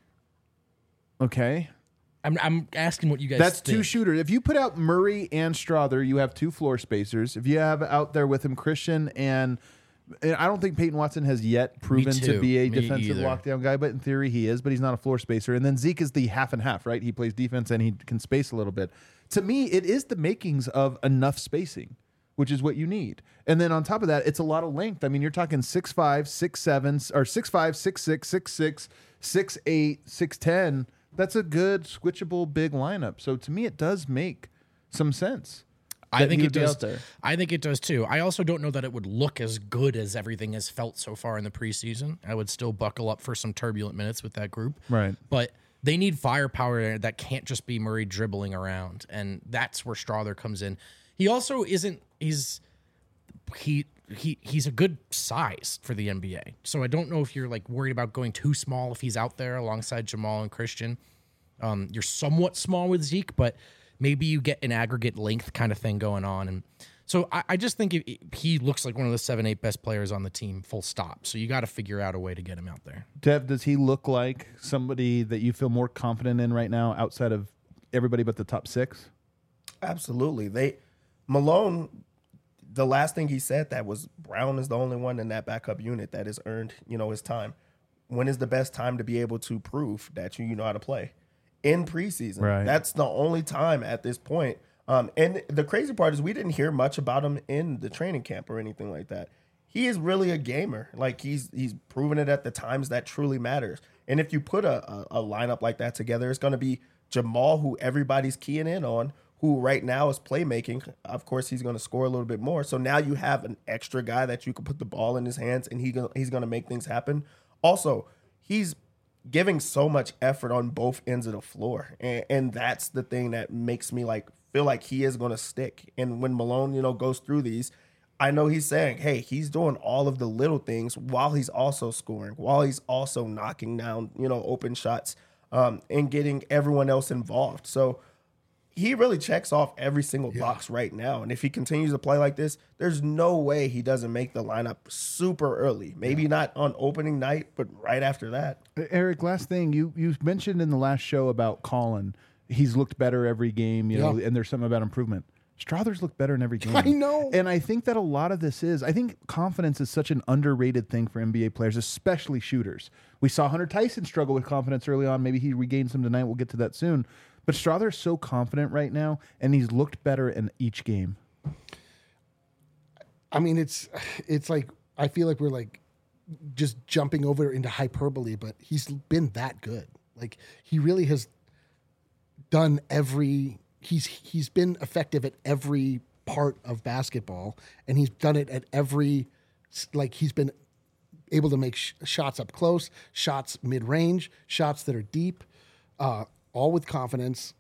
Okay. I'm I'm asking what you guys. That's think. two shooters. If you put out Murray and Strawther, you have two floor spacers. If you have out there with him Christian and, and I don't think Peyton Watson has yet proven to too. be a Me defensive either. lockdown guy, but in theory he is, but he's not a floor spacer. And then Zeke is the half and half, right? He plays defense and he can space a little bit. To me, it is the makings of enough spacing, which is what you need. And then on top of that, it's a lot of length. I mean, you're talking six five, six seven, or six five, six six, six six, six eight, six ten. That's a good switchable big lineup. So to me, it does make some sense. I that think he it would be does. out there. I think it does too. I also don't know that it would look as good as everything has felt so far in the preseason. I would still buckle up for some turbulent minutes with that group. Right. But they need firepower that can't just be Murray dribbling around, and that's where Strawther comes in. He also isn't. He's he he he's a good size for the N B A. So I don't know if you're like worried about going too small if he's out there alongside Jamal and Christian. Um, you're somewhat small with Zeke, but maybe you get an aggregate length kind of thing going on. And so I, I just think it, it- he looks like one of the seven, eight best players on the team, full stop. So you got to figure out a way to get him out there. Dev, does he look like somebody that you feel more confident in right now outside of everybody but the top six? Absolutely. They Malone, the last thing he said that was Brown is the only one in that backup unit that has earned, you know, his time. When is the best time to be able to prove that you, you know how to play? In preseason. Right. That's the only time at this point. Um, and the crazy part is we didn't hear much about him in the training camp or anything like that. He is really a gamer. Like he's he's proven it at the times that truly matters. And if you put a, a, a lineup like that together, it's going to be Jamal, who everybody's keying in on, who right now is playmaking. Of course, he's going to score a little bit more. So now you have an extra guy that you can put the ball in his hands, and he go- he's going to make things happen. Also, he's giving so much effort on both ends of the floor, and, and that's the thing that makes me like feel like he is going to stick. And when Malone, you know, goes through these, I know he's saying, hey, he's doing all of the little things while he's also scoring, while he's also knocking down, you know, open shots, um, and getting everyone else involved. So he really checks off every single yeah. box right now. And if he continues to play like this, there's no way he doesn't make the lineup super early. Maybe yeah. not on opening night, but right after that. Eric, last thing, you you mentioned in the last show about Colin, he's looked better every game, you know, yeah. and there's something about improvement. Strawther's looked better in every game. I know. And I think that a lot of this is, I think confidence is such an underrated thing for N B A players, especially shooters. We saw Hunter Tyson struggle with confidence early on. Maybe he regained some tonight. We'll get to that soon. But Strawther's so confident right now, and he's looked better in each game. I mean, it's it's like, I feel like we're like just jumping over into hyperbole, but he's been that good. Like, he really has done every... He's he's been effective at every part of basketball, and he's done it at every, like, he's been able to make sh- shots up close, shots mid-range, shots that are deep, uh, all with confidence.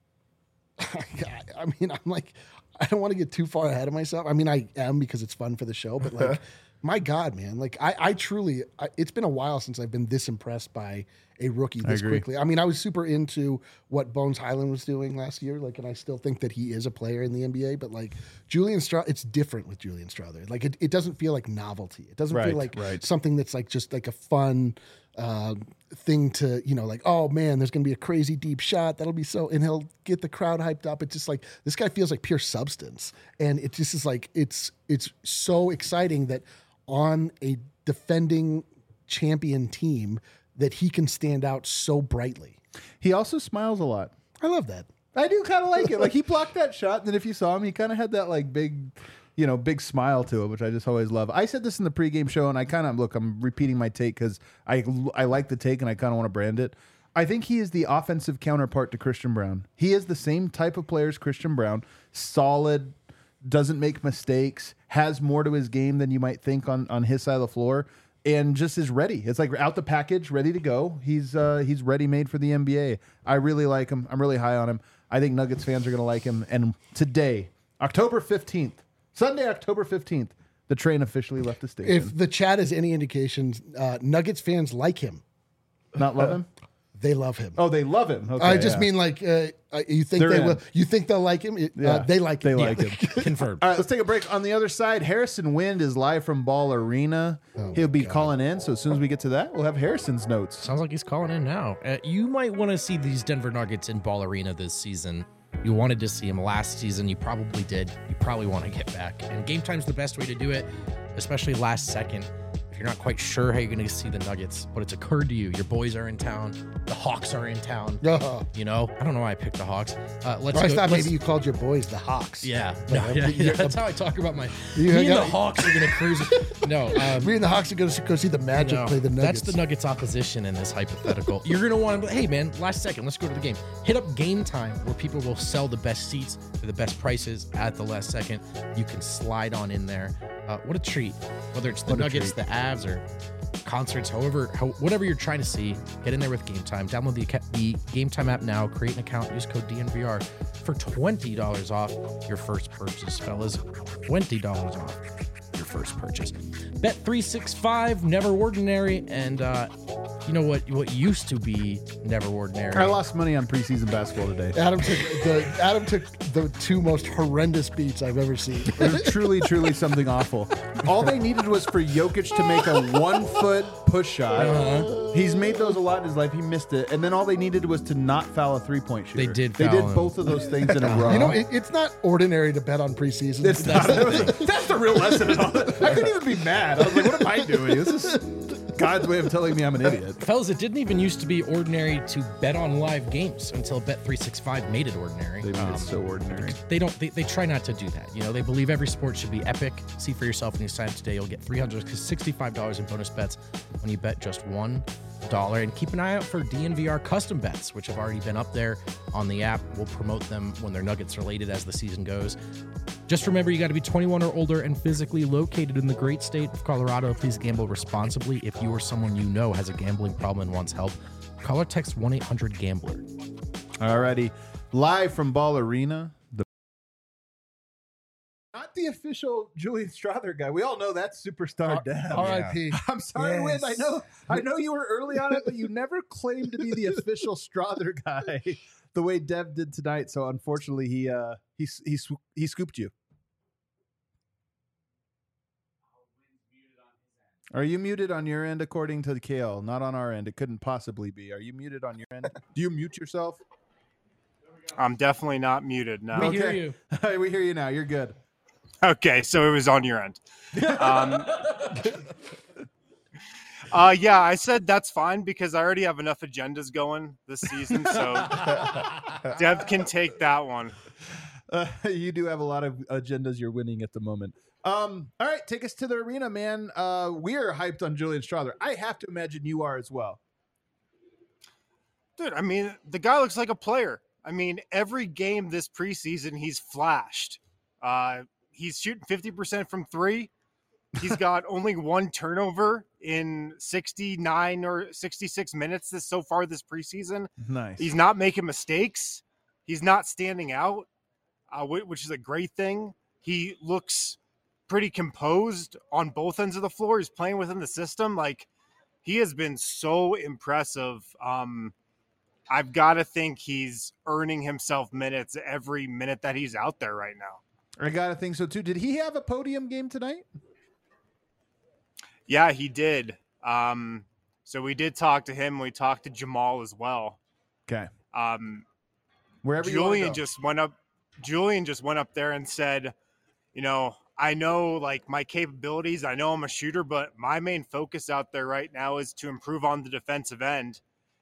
I mean, I'm like, I don't want to get too far ahead of myself. I mean, I am because it's fun for the show, but like, my God, man, like I, I truly, I, it's been a while since I've been this impressed by a rookie this I quickly. I mean, I was super into what Bones Highland was doing last year, like, and I still think that he is a player in the N B A, but like Julian Strawther, it's different with Julian Strawther. Like, it, it doesn't feel like novelty. It doesn't right, feel like right. something that's like just like a fun uh, thing to, you know, like, oh man, there's going to be a crazy deep shot. That'll be so, and he'll get the crowd hyped up. It's just like, this guy feels like pure substance. And it just is like, it's, it's so exciting that on a defending champion team that he can stand out so brightly. He also smiles a lot. I love that. I do kind of like it. Like, he blocked that shot, and then if you saw him, he kind of had that like big, you know, big smile to it, which I just always love. I said this in the pregame show, and I kind of, look, I'm repeating my take because I, I like the take and I kind of want to brand it. I think he is the offensive counterpart to Christian Braun. He is the same type of player as Christian Braun, solid, doesn't make mistakes, has more to his game than you might think on, on his side of the floor, and just is ready. It's like out the package, ready to go. He's uh, he's ready made for the N B A. I really like him. I'm really high on him. I think Nuggets fans are going to like him. And today, October fifteenth, Sunday, October fifteenth, the train officially left the station. If the chat is any indication, uh, Nuggets fans like him. Not love him? They love him. Oh, they love him. Okay, I just yeah. mean like uh, uh, you think They're they in. will. You think they'll like him? It, Yeah, uh, they like they him. like Yeah. him. Confirmed. All right, let's take a break. On the other side, Harrison Wind is live from Ball Arena. He'll be calling in, so as soon as we get to that, we'll have Harrison's notes. Sounds like he's calling in now. Uh, you might want to see these Denver Nuggets in Ball Arena this season. You wanted to see him last season. You probably did. You probably want to get back. And game time's the best way to do it, especially last second. If you're not quite sure how you're going to see the Nuggets, but it's occurred to you, your boys are in town, the Hawks are in town. Uh-huh. You know, I don't know why I picked the Hawks. Uh, let's I go, thought let's, maybe you called your boys the Hawks. Yeah, no, yeah, yeah, that's how I talk about my. You Me and got- the Hawks are going to cruise. No, um, Me and the Hawks are going to go see the Magic no, play the Nuggets. that's the Nuggets opposition in this hypothetical. You're going to want to, hey man, last second, let's go to the game. Hit up Game Time, where people will sell the best seats for the best prices at the last second. You can slide on in there. Uh, what a treat. Whether it's the What a Nuggets, treat. the Avs, or concerts, however, how, whatever you're trying to see, get in there with Game Time. Download the, the Game Time app now. Create an account. Use code D N V R for twenty dollars off your first purchase, fellas. twenty dollars off your first purchase. Bet three sixty-five, never ordinary, and uh, you know what? What used to be never ordinary. I lost money on preseason basketball today. Adam took the Adam took the two most horrendous beats I've ever seen. It was truly, truly something awful. All they needed was for Jokic to make a one-foot push shot. Uh-huh. He's made those a lot in his life. He missed it. And then all they needed was to not foul a three-point shooter. They did They foul did him. both of those things in a row. You know, it, it's not ordinary to bet on preseason. It's not. That's the real lesson in all that. I couldn't even be mad. I was like, what am I doing? This is God's way of telling me I'm an idiot. Fellas, it didn't even used to be ordinary to bet on live games until Bet three sixty-five made it ordinary. They made Um, it so ordinary. They don't. They, they try not to do that. You know, they believe every sport should be epic. See for yourself when you sign up today. You'll get three hundred sixty-five dollars in bonus bets when you bet just one dollar. And keep an eye out for D N V R custom bets, which have already been up there on the app. We'll promote them when they're Nuggets related as the season goes. Just remember, you got to be twenty-one or older and physically located in the great state of Colorado. Please gamble responsibly. If you or someone you know has a gambling problem and wants help, call or text one eight hundred gambler. Alrighty. Live from Ball Arena. The Not the official Julian Strother guy. We all know that's superstar Dev. R I P. I'm sorry, Yes. Win. I know I know you were early on it, but you never claimed to be the official Strother guy the way Dev did tonight. So unfortunately, he uh he he sw- he scooped you. Are you muted on your end according to Kale? Not on our end. It couldn't possibly be. Are you muted on your end? Do you mute yourself? I'm definitely not muted now. We hear Okay. you. We hear you now. You're good. Okay, so it was on your end. Um, uh, yeah, I said that's fine because I already have enough agendas going this season, so Dev can take that one. Uh, you do have a lot of agendas you're winning at the moment. Um, all right, take us to the arena, man. Uh, we're hyped on Julian Strother. I have to imagine you are as well. Dude, I mean, the guy looks like a player. I mean, every game this preseason, he's flashed. Uh, he's shooting fifty percent from three. He's got only one turnover in sixty-nine or sixty-six minutes this so far this preseason. Nice. He's not making mistakes. He's not standing out, uh, wh- which is a great thing. He looks pretty composed on both ends of the floor. He's playing within the system. Like, he has been so impressive. Um, I've got to think he's earning himself minutes every minute that he's out there right now. I gotta think so too. Did he have a podium game tonight? Yeah, he did. Um, so we did talk to him. We talked to Jamal as well. Okay. Um, Wherever you wanna Julian go. just went up. Julian just went up there and said, you know, I know like my capabilities. I know I'm a shooter, but my main focus out there right now is to improve on the defensive end.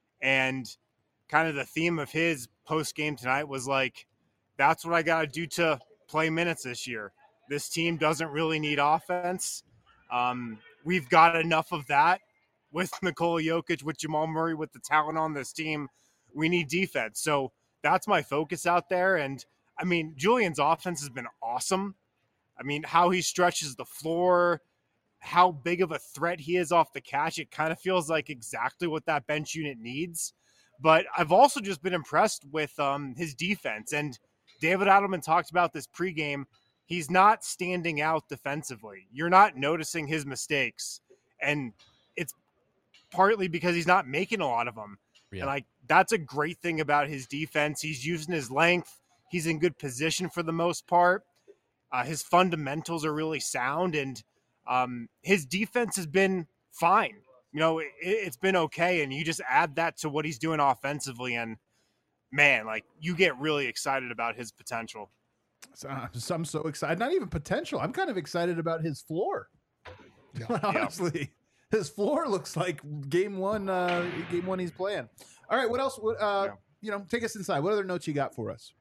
And kind of the theme of his post game tonight was like, that's what I got to do to play minutes this year. This team doesn't really need offense. Um, we've got enough of that with Nikola Jokic, with Jamal Murray, with the talent on this team. We need defense. So that's my focus out there. And I mean, Julian's offense has been awesome. I mean, how he stretches the floor, how big of a threat he is off the catch. It kind of feels like exactly what that bench unit needs. But I've also just been impressed with um, his defense. And David Adelman talked about this pregame. He's not standing out defensively. You're not noticing his mistakes. And it's partly because he's not making a lot of them. Yeah. And like, that's a great thing about his defense. He's using his length. He's in good position for the most part. Uh, his fundamentals are really sound, and um, his defense has been fine. You know, it, it's been okay, and you just add that to what he's doing offensively, and man, like, you get really excited about his potential. So, uh, so I'm so excited. Not even potential. I'm kind of excited about his floor. Yeah. Honestly, his floor looks like game one. Uh, game one he's playing. All right. What else? What, uh, Yeah. You know, take us inside. What other notes you got for us?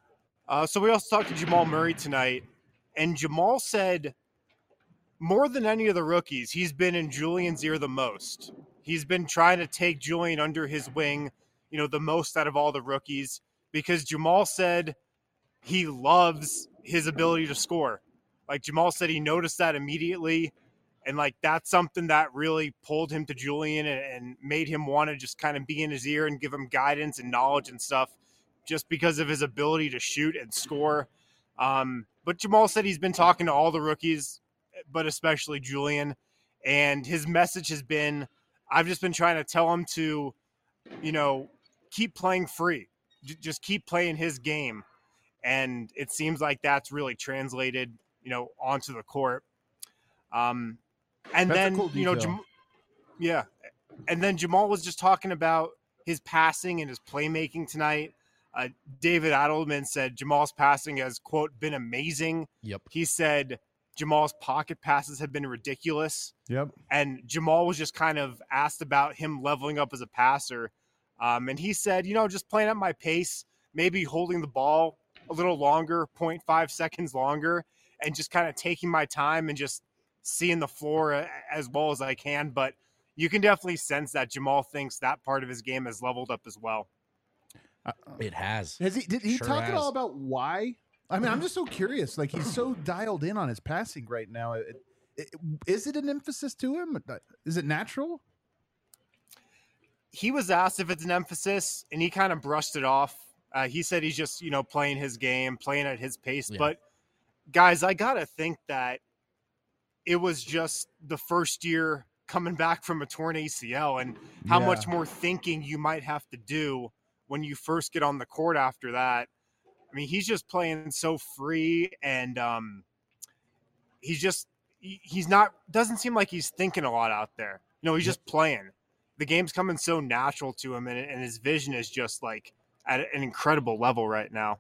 Uh, so we also talked to Jamal Murray tonight, and Jamal said more than any of the rookies, he's been in Julian's ear the most. He's been trying to take Julian under his wing, you know, the most out of all the rookies, because Jamal said he loves his ability to score. Like, Jamal said he noticed that immediately, and like, that's something that really pulled him to Julian and, and made him want to just kind of be in his ear and give him guidance and knowledge and stuff, just because of his ability to shoot and score. Um, but Jamal said he's been talking to all the rookies, but especially Julian, and his message has been, I've just been trying to tell him to, you know, keep playing free, J- just keep playing his game. And it seems like that's really translated, you know, onto the court. Um, and That's a then, cool you know, detail. Jam- yeah. And then Jamal was just talking about his passing and his playmaking tonight. Uh, David Adelman said Jamal's passing has, quote, been amazing. Yep. He said Jamal's pocket passes have been ridiculous. Yep. And Jamal was just kind of asked about him leveling up as a passer. Um, and he said, you know, just playing at my pace, maybe holding the ball a little longer, zero point five seconds longer, and just kind of taking my time and just seeing the floor as well as I can. But you can definitely sense that Jamal thinks that part of his game has leveled up as well. It has. Has he? Did he Sure talk at has. all about why? I mean, I'm just so curious. Like, he's so dialed in on his passing right now. It, it, is it an emphasis to him? Is it natural? He was asked if it's an emphasis, and he kind of brushed it off. Uh, he said he's just, you know, playing his game, playing at his pace. Yeah. But guys, I gotta think that it was just the first year coming back from a torn A C L, and how Yeah. much more thinking you might have to do when you first get on the court after that. I mean, he's just playing so free, and um, he's just he- he's not doesn't seem like he's thinking a lot out there. You know, he's just playing. The game's coming so natural to him, and, and his vision is just like at an incredible level right now.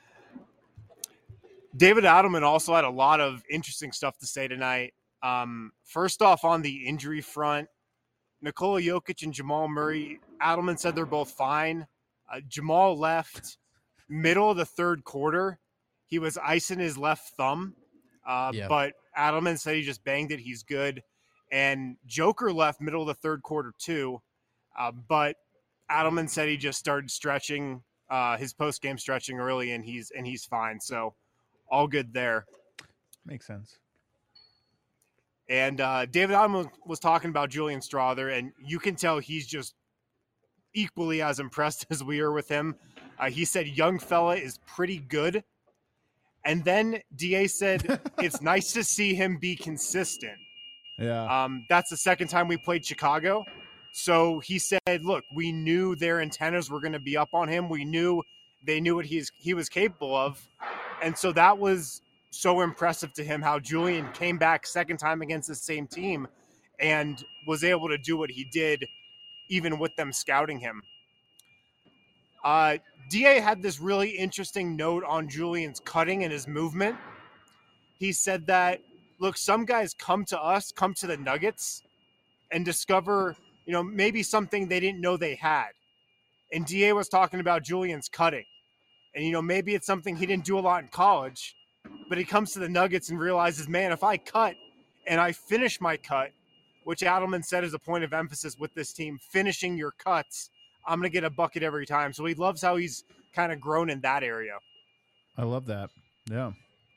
David Adelman also had a lot of interesting stuff to say tonight. Um, first off, on the injury front, Nikola Jokic and Jamal Murray, Adelman said they're both fine. Uh, Jamal left middle of the third quarter. He was icing his left thumb, uh, Yeah. but Adelman said he just banged it. He's good. And Joker left middle of the third quarter too, uh, but Adelman said he just started stretching, uh, his post-game stretching early, and he's and he's fine. So all good there. Makes sense. And uh, David Adelman was talking about Julian Strawther, and you can tell he's just equally as impressed as we are with him. Uh, he said, young fella is pretty good. And then D A said, it's nice to see him be consistent. Yeah. Um, that's the second time we played Chicago. So he said, look, we knew their antennas were going to be up on him. We knew they knew what he's, he was capable of. And so that was so impressive to him, how Julian came back second time against the same team and was able to do what he did, even with them scouting him. Uh, D A had this really interesting note on Julian's cutting and his movement. He said that, look, some guys come to us, come to the Nuggets, and discover, you know, maybe something they didn't know they had. And D A was talking about Julian's cutting. And, you know, maybe it's something he didn't do a lot in college, but he comes to the Nuggets and realizes, man, if I cut and I finish my cut, which Adelman said is a point of emphasis with this team, finishing your cuts, I'm going to get a bucket every time. So he loves how he's kind of grown in that area. I love that. Yeah.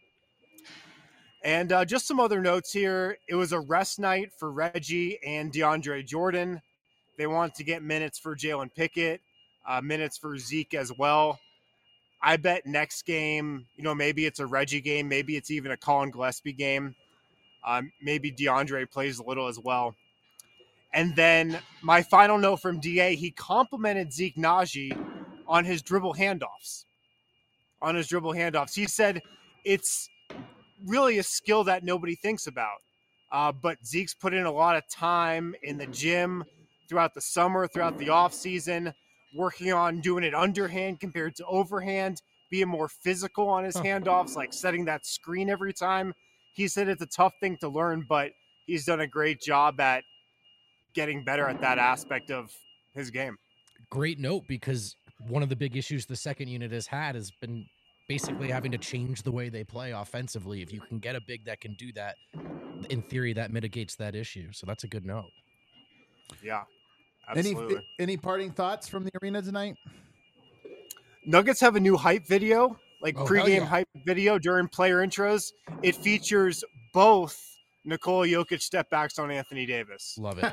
And uh, just some other notes here. It was a rest night for Reggie and DeAndre Jordan. They wanted to get minutes for Jalen Pickett, uh, minutes for Zeke as well. I bet next game, you know, maybe it's a Reggie game. Maybe it's even a Colin Gillespie game. Um, maybe DeAndre plays a little as well. And then my final note from D A, he complimented Zeke Naji on his dribble handoffs. On his dribble handoffs. He said it's really a skill that nobody thinks about. Uh, but Zeke's put in a lot of time in the gym throughout the summer, throughout the offseason, working on doing it underhand compared to overhand, being more physical on his handoffs, like setting that screen every time. He said it's a tough thing to learn, but he's done a great job at getting better at that aspect of his game. Great note, because one of the big issues the second unit has had has been basically having to change the way they play offensively. If you can get a big that can do that, in theory, that mitigates that issue. So that's a good note. Yeah, Any absolutely. any parting thoughts from the arena tonight? Nuggets have a new hype video, like Oh, hell pregame yeah. hype video during player intros. It features both Nikola Jokic step backs on Anthony Davis. Love it.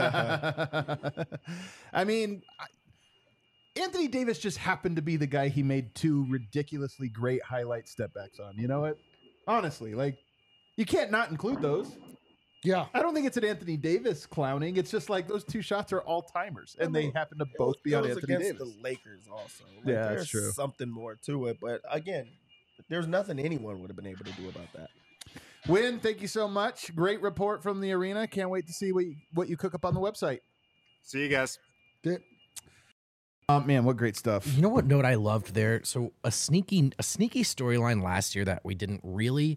I mean, I- Anthony Davis just happened to be the guy he made two ridiculously great highlight step backs on. You know what? Honestly, like, you can't not include those. Yeah. I don't think it's an Anthony Davis clowning. It's just like those two shots are all timers, and they happen to both be It on was Anthony against Davis. the Lakers also. Like, Yeah, that's there's true. something more to it, but again, there's nothing anyone would have been able to do about that. Win, thank you so much. Great report from the arena. Can't wait to see what you, what you cook up on the website. See you guys. Did- Oh man, what great stuff. You know what note I loved there? So a sneaky a sneaky storyline last year that we didn't really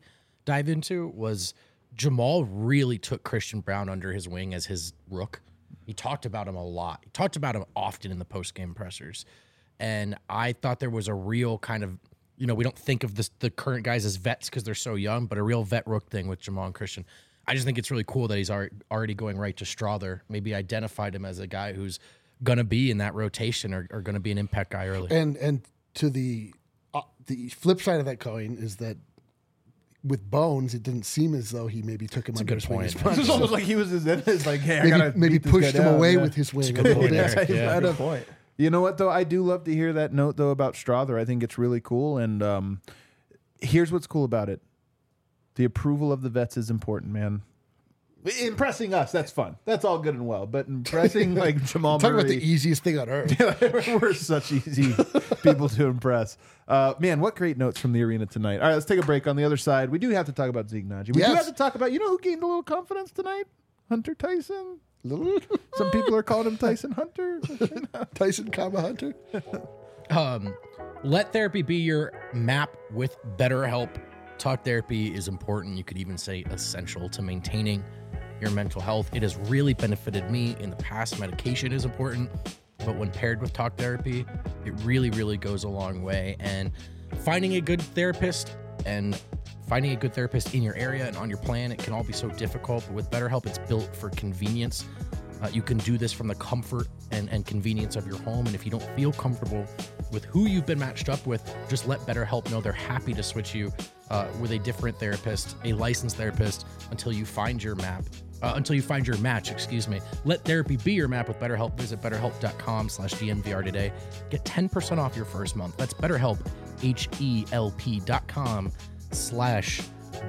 dive into was Jamal really took Christian Brown under his wing as his rook. He talked about him a lot. He talked about him often in the post-game pressers. And I thought there was a real kind of, you know, we don't think of this, the current guys as vets because they're so young, but a real vet rook thing with Jamal and Christian. I just think it's really cool that he's already going right to Strother. Maybe identified him as a guy who's going to be in that rotation or, or going to be an impact guy early. And and to the uh, the flip side of that coin is that with Bones, it didn't seem as though he maybe took him under his wing. It's just almost like he was his It's like, hey, I maybe gotta maybe beat this pushed guy him down. away Yeah. with his wing a good little point, bit. Eric. Yeah, Out Good of- point. You know what, though? I do love to hear that note, though, about Strother. I think it's really cool. And um, here's what's cool about it. The approval of the vets is important, man. Impressing us, that's fun. That's all good and well. But impressing, like, Jamal Talk Murray. about the easiest thing on earth. We're such easy people to impress. Uh, man, what great notes from the arena tonight. All right, let's take a break. On the other side, we do have to talk about Zeke Naji. We do Yes. have to talk about, you know who gained a little confidence tonight? Hunter Tyson. Some people are calling him Tyson Hunter. Tyson, comma Hunter. Um, let therapy be your map with BetterHelp. Talk therapy is important. You could even say essential to maintaining your mental health. It has really benefited me in the past. Medication is important, but when paired with talk therapy, it really, really goes a long way. And finding a good therapist and finding a good therapist in your area and on your plan, it can all be so difficult. But with BetterHelp, it's built for convenience. Uh, you can do this from the comfort and, and convenience of your home. And if you don't feel comfortable with who you've been matched up with, just let BetterHelp know they're happy to switch you uh, with a different therapist, a licensed therapist, until you find your map, uh, until you find your match, excuse me. Let therapy be your map with BetterHelp. Visit betterhelp.com slash DNVR today. Get ten percent off your first month. That's BetterHelp, H-E-L-P dot com slash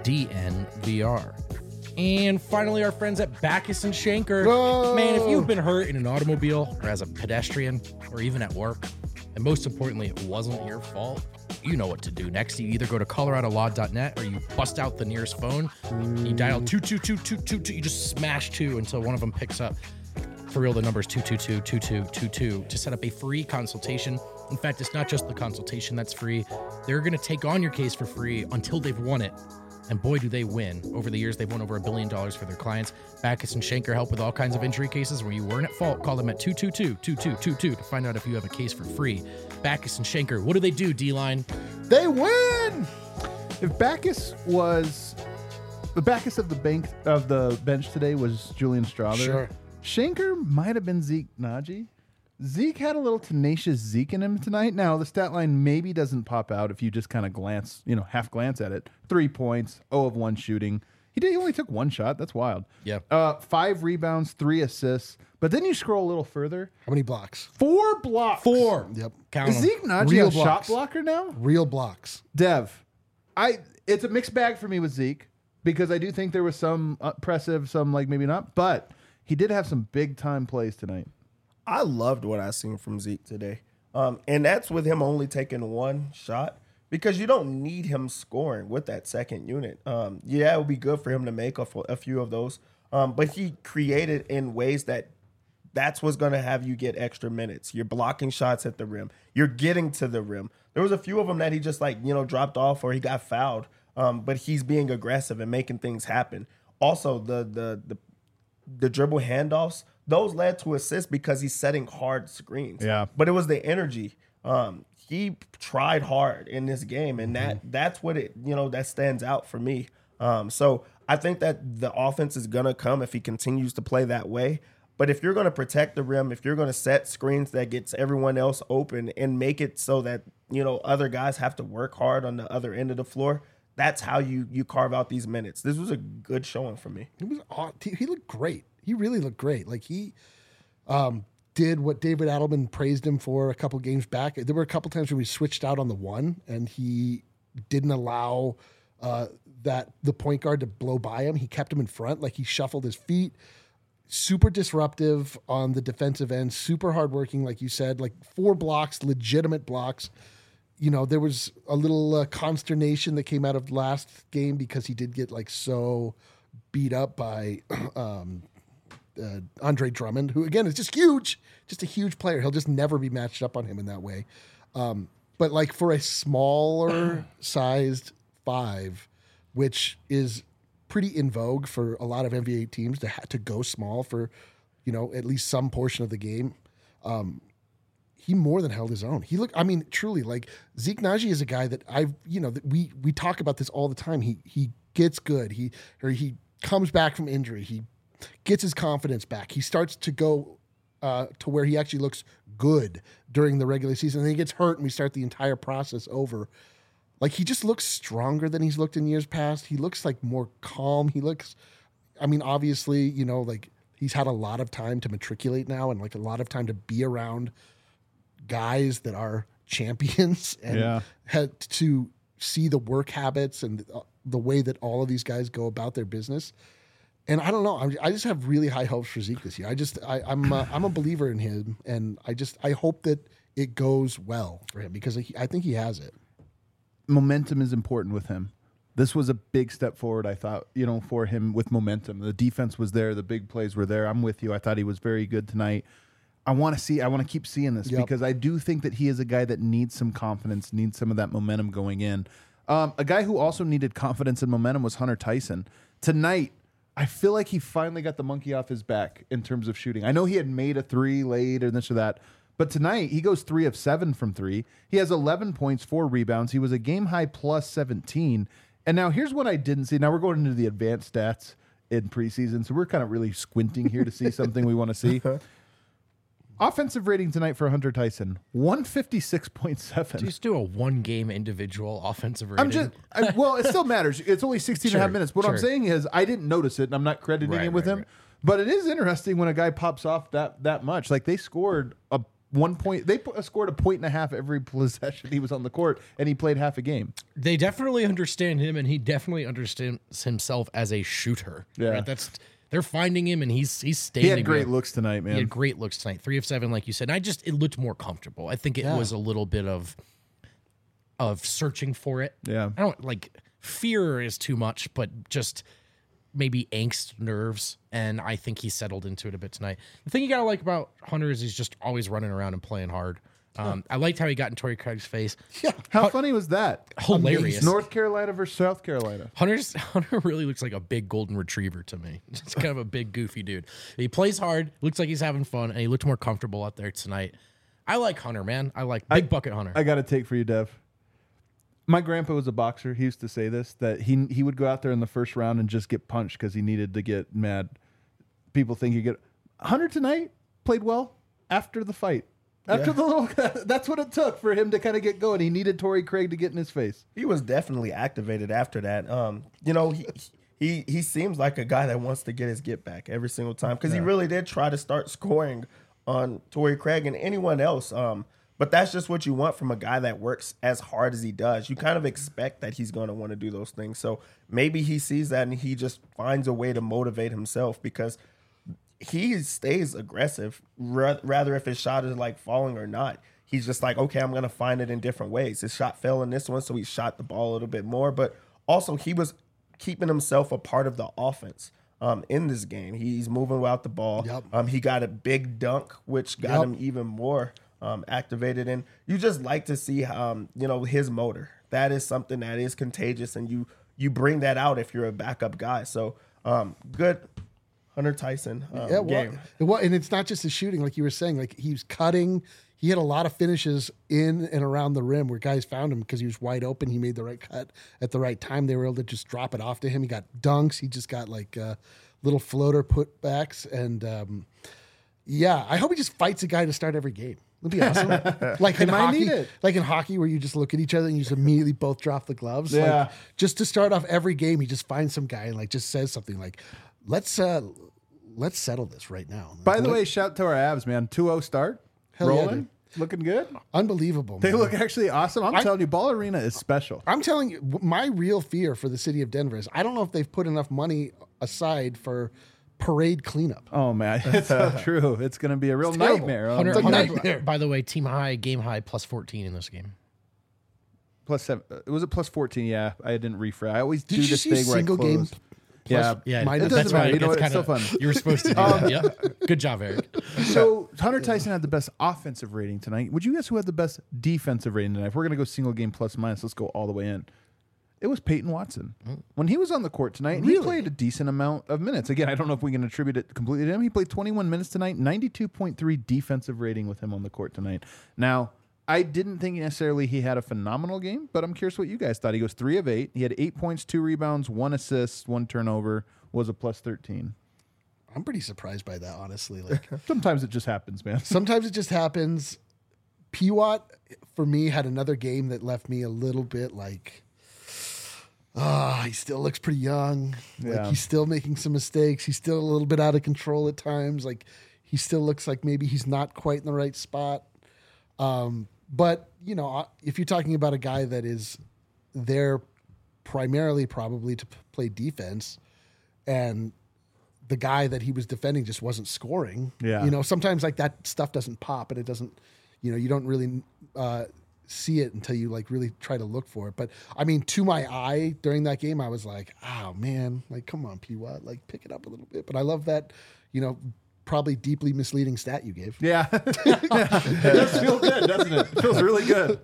DNVR. And finally, our friends at Backus and Schenker. Whoa. Man, if you've been hurt in an automobile or as a pedestrian or even at work, and most importantly, it wasn't your fault, you know what to do next. You either go to colorado law dot net or you bust out the nearest phone. You dial two two two two two two. You just smash two until one of them picks up. For real, the number is two two two two two two two to set up a free consultation. In fact, it's not just the consultation that's free. They're going to take on your case for free until they've won it. And boy, do they win. Over the years, they've won over a billion dollars for their clients. Backus and Schenker help with all kinds of injury cases where you weren't at fault. Call them at two two two two two two two to find out if you have a case for free. Backus and Schenker, what do they do, D-Line? They win. If Backus was the Backus of the bank of the bench today was Julian Strother. Sure. Schenker might have been Zeke Naji. Zeke had a little tenacious Zeke in him tonight. Now, the stat line maybe doesn't pop out if you just kind of glance, you know, half glance at it. Three points, zero of one shooting. He did. He only took one shot. That's wild. Yeah. Uh, five rebounds, three assists. But then you scroll a little further. How many blocks? Four blocks. Four. Yep. Count Is 'em. Zeke Naji Real a shot blocks. blocker now? Real blocks. Dev, I it's a mixed bag for me with Zeke because I do think there was some impressive, some like maybe not, but he did have some big time plays tonight. I loved what I seen from Zeke today. Um, and that's with him only taking one shot because you don't need him scoring with that second unit. Um, yeah, it would be good for him to make a, a few of those. Um, but he created in ways that that's what's going to have you get extra minutes. You're blocking shots at the rim. You're getting to the rim. There was a few of them that he just like, you know, dropped off or he got fouled. Um, but he's being aggressive and making things happen. Also, the the the the dribble handoffs, those led to assists because he's setting hard screens. Yeah. But it was the energy. Um, he tried hard in this game, and that that's what it, you know, that stands out for me. Um, so I think that the offense is gonna come if he continues to play that way. But if you're gonna protect the rim, if you're gonna set screens that gets everyone else open and make it so that, you know, other guys have to work hard on the other end of the floor, that's how you you carve out these minutes. This was a good showing for me. He was aw- he he looked great. He really looked great. Like he um, did what David Adelman praised him for a couple games back. There were a couple times when we switched out on the one, and he didn't allow uh, that the point guard to blow by him. He kept him in front. Like he shuffled his feet. Super disruptive on the defensive end. Super hardworking, like you said. Like four blocks, legitimate blocks. You know, there was a little uh, consternation that came out of last game because he did get like so beat up by um, uh, Andre Drummond, who again is just huge, just a huge player. He'll just never be matched up on him in that way. Um, but like for a smaller sized five, which is pretty in vogue for a lot of N B A teams to ha- to go small for, you know, at least some portion of the game. Um, he more than held his own. He looked, I mean, truly, like Zeke Naji is a guy that I've, you know, that we we talk about this all the time. He he gets good. He or he comes back from injury. He gets his confidence back. He starts to go uh, to where he actually looks good during the regular season. And then he gets hurt, and we start the entire process over. Like, he just looks stronger than he's looked in years past. He looks like more calm. He looks, I mean, obviously, you know, like he's had a lot of time to matriculate now, and like a lot of time to be around guys that are champions and Yeah. had to see the work habits and the way that all of these guys go about their business. And I don't know, I, I just have really high hopes for Zeke this year. I just, I, I'm, a, I'm a believer in him, and I just, I hope that it goes well for him because he, I think he has it. Momentum is important with him. This was a big step forward, I thought, you know, for him with momentum. The defense was there. The big plays were there. I'm with you. I thought he was very good tonight. I want to see, I want to keep seeing this Yep. because I do think that he is a guy that needs some confidence, needs some of that momentum going in. Um, a guy who also needed confidence and momentum was Hunter Tyson. Tonight, I feel like he finally got the monkey off his back in terms of shooting. I know he had made a three late or this or that, but tonight he goes three of seven from three. He has eleven points, four rebounds. He was a game high plus seventeen. And now here's what I didn't see. Now we're going into the advanced stats in preseason, so we're kind of really squinting here to see something we want to see. Offensive rating tonight for Hunter Tyson, one fifty-six point seven. Just do a one game individual offensive rating. I'm just, I, well, it still matters. It's only sixteen and a half Sure, minutes. What I'm sure. saying is I didn't notice it, and I'm not crediting Right, it with right, him. right. But it is interesting when a guy pops off that that much. Like they scored a one point, they put, scored a point and a half every possession he was on the court, and he played half a game. They definitely understand him, and he definitely understands himself as a shooter. Yeah. right? That's they're finding him, and he's he's staying. He had great looks tonight, He man. had great looks tonight. Three of seven, like you said. And I just it looked more comfortable. I think it Yeah. was a little bit of of searching for it. Yeah. I don't like fear is too much, but just maybe angst, nerves, and I think he settled into it a bit tonight. The thing you gotta like about Hunter is he's just always running around and playing hard. Um, I liked how he got in Torrey Craig's face. Yeah. How funny was that? Hilarious. North Carolina versus South Carolina. Hunter's Hunter really looks like a big golden retriever to me. Just kind of a big goofy dude. He plays hard, looks like he's having fun, and he looked more comfortable out there tonight. I like Hunter, man. I like big bucket Hunter. I got to take for you, Dev. My grandpa was a boxer. He used to say this, that he he would go out there in the first round and just get punched because he needed to get mad. People think you get... Hunter tonight played well after the fight. After the little... That's what it took for him to kind of get going. He needed Torrey Craig to get in his face. He was definitely activated after that. Um, you know, he he he seems like a guy that wants to get his get back every single time because he really did try to start scoring on Torrey Craig and anyone else. Um, but that's just what you want from a guy that works as hard as he does. You kind of expect that he's going to want to do those things. So maybe he sees that and he just finds a way to motivate himself because he stays aggressive, ra- rather if his shot is like falling or not. He's just like, okay, I'm going to find it in different ways. His shot fell in this one, so he shot the ball a little bit more. But also, he was keeping himself a part of the offense um, in this game. He's moving without the ball. Yep. Um, he got a big dunk, which got Yep. him even more um, activated. And you just like to see, um, you know, his motor. That is something that is contagious, and you you bring that out if you're a backup guy. So um, good. Hunter Tyson um, Yeah, well, game. it wa- and it's not just the shooting, like you were saying. Like he was cutting. He had a lot of finishes in and around the rim where guys found him because he was wide open. He made the right cut at the right time. They were able to just drop it off to him. He got dunks. He just got like uh, little floater putbacks. And um, yeah, I hope he just fights a guy to start every game. It'd be awesome. Like in might hockey, need it. like in hockey, where you just look at each other and you just immediately both drop the gloves. Yeah. Like, just to start off every game, he just finds some guy and like just says something like, "Let's uh, let's settle this right now." By the way, shout to our abs, man. two oh start. Hell yeah, Rolling. dude. Looking good. Unbelievable. They man. look actually awesome. I'm I- telling you, Ball Arena is special. I'm telling you, w- my real fear for the city of Denver is I don't know if they've put enough money aside for parade cleanup. Oh, man. It's so true. It's going to be a real terrible. nightmare. Oh, Hunter, It's a man. Hunter, nightmare. by the way, team high, game high, plus fourteen in this game. Plus seven. uh, Was it plus fourteen? Yeah, I didn't refresh. I always Did do you this see thing where I single close. game Yeah. Yeah, Mine- It It doesn't that's matter. why You know what? it's It's still kinda- fun. You were supposed to do that. Yep. Good job, Eric. So Hunter Tyson had the best offensive rating tonight. Would you guess who had the best defensive rating tonight? If we're going to go single game plus minus, let's go all the way in. It was Peyton Watson. When he was on the court tonight, and he Really? played a decent amount of minutes. Again, I don't know if we can attribute it completely to him. He played twenty-one minutes tonight, ninety-two point three defensive rating with him on the court tonight. Now, I didn't think necessarily he had a phenomenal game, but I'm curious what you guys thought. He goes three of eight. He had eight points, two rebounds, one assist, one turnover, was a plus thirteen. I'm pretty surprised by that, honestly. Like Sometimes it just happens, man. sometimes it just happens. P W A T for me had another game that left me a little bit like, ah, he still looks pretty young. Like Yeah. he's still making some mistakes. He's still a little bit out of control at times. Like he still looks like maybe he's not quite in the right spot. Um, but you know, if you're talking about a guy that is there primarily probably to p- play defense, and the guy that he was defending just wasn't scoring. Yeah. You know, sometimes like that stuff doesn't pop and it doesn't, you know, you don't really uh, see it until you like really try to look for it. But I mean, to my eye during that game, I was like, oh man, like, come on, P W A T, like pick it up a little bit. But I love that, you know, probably deeply misleading stat you gave. Yeah. It does feel good, doesn't it? It feels really good.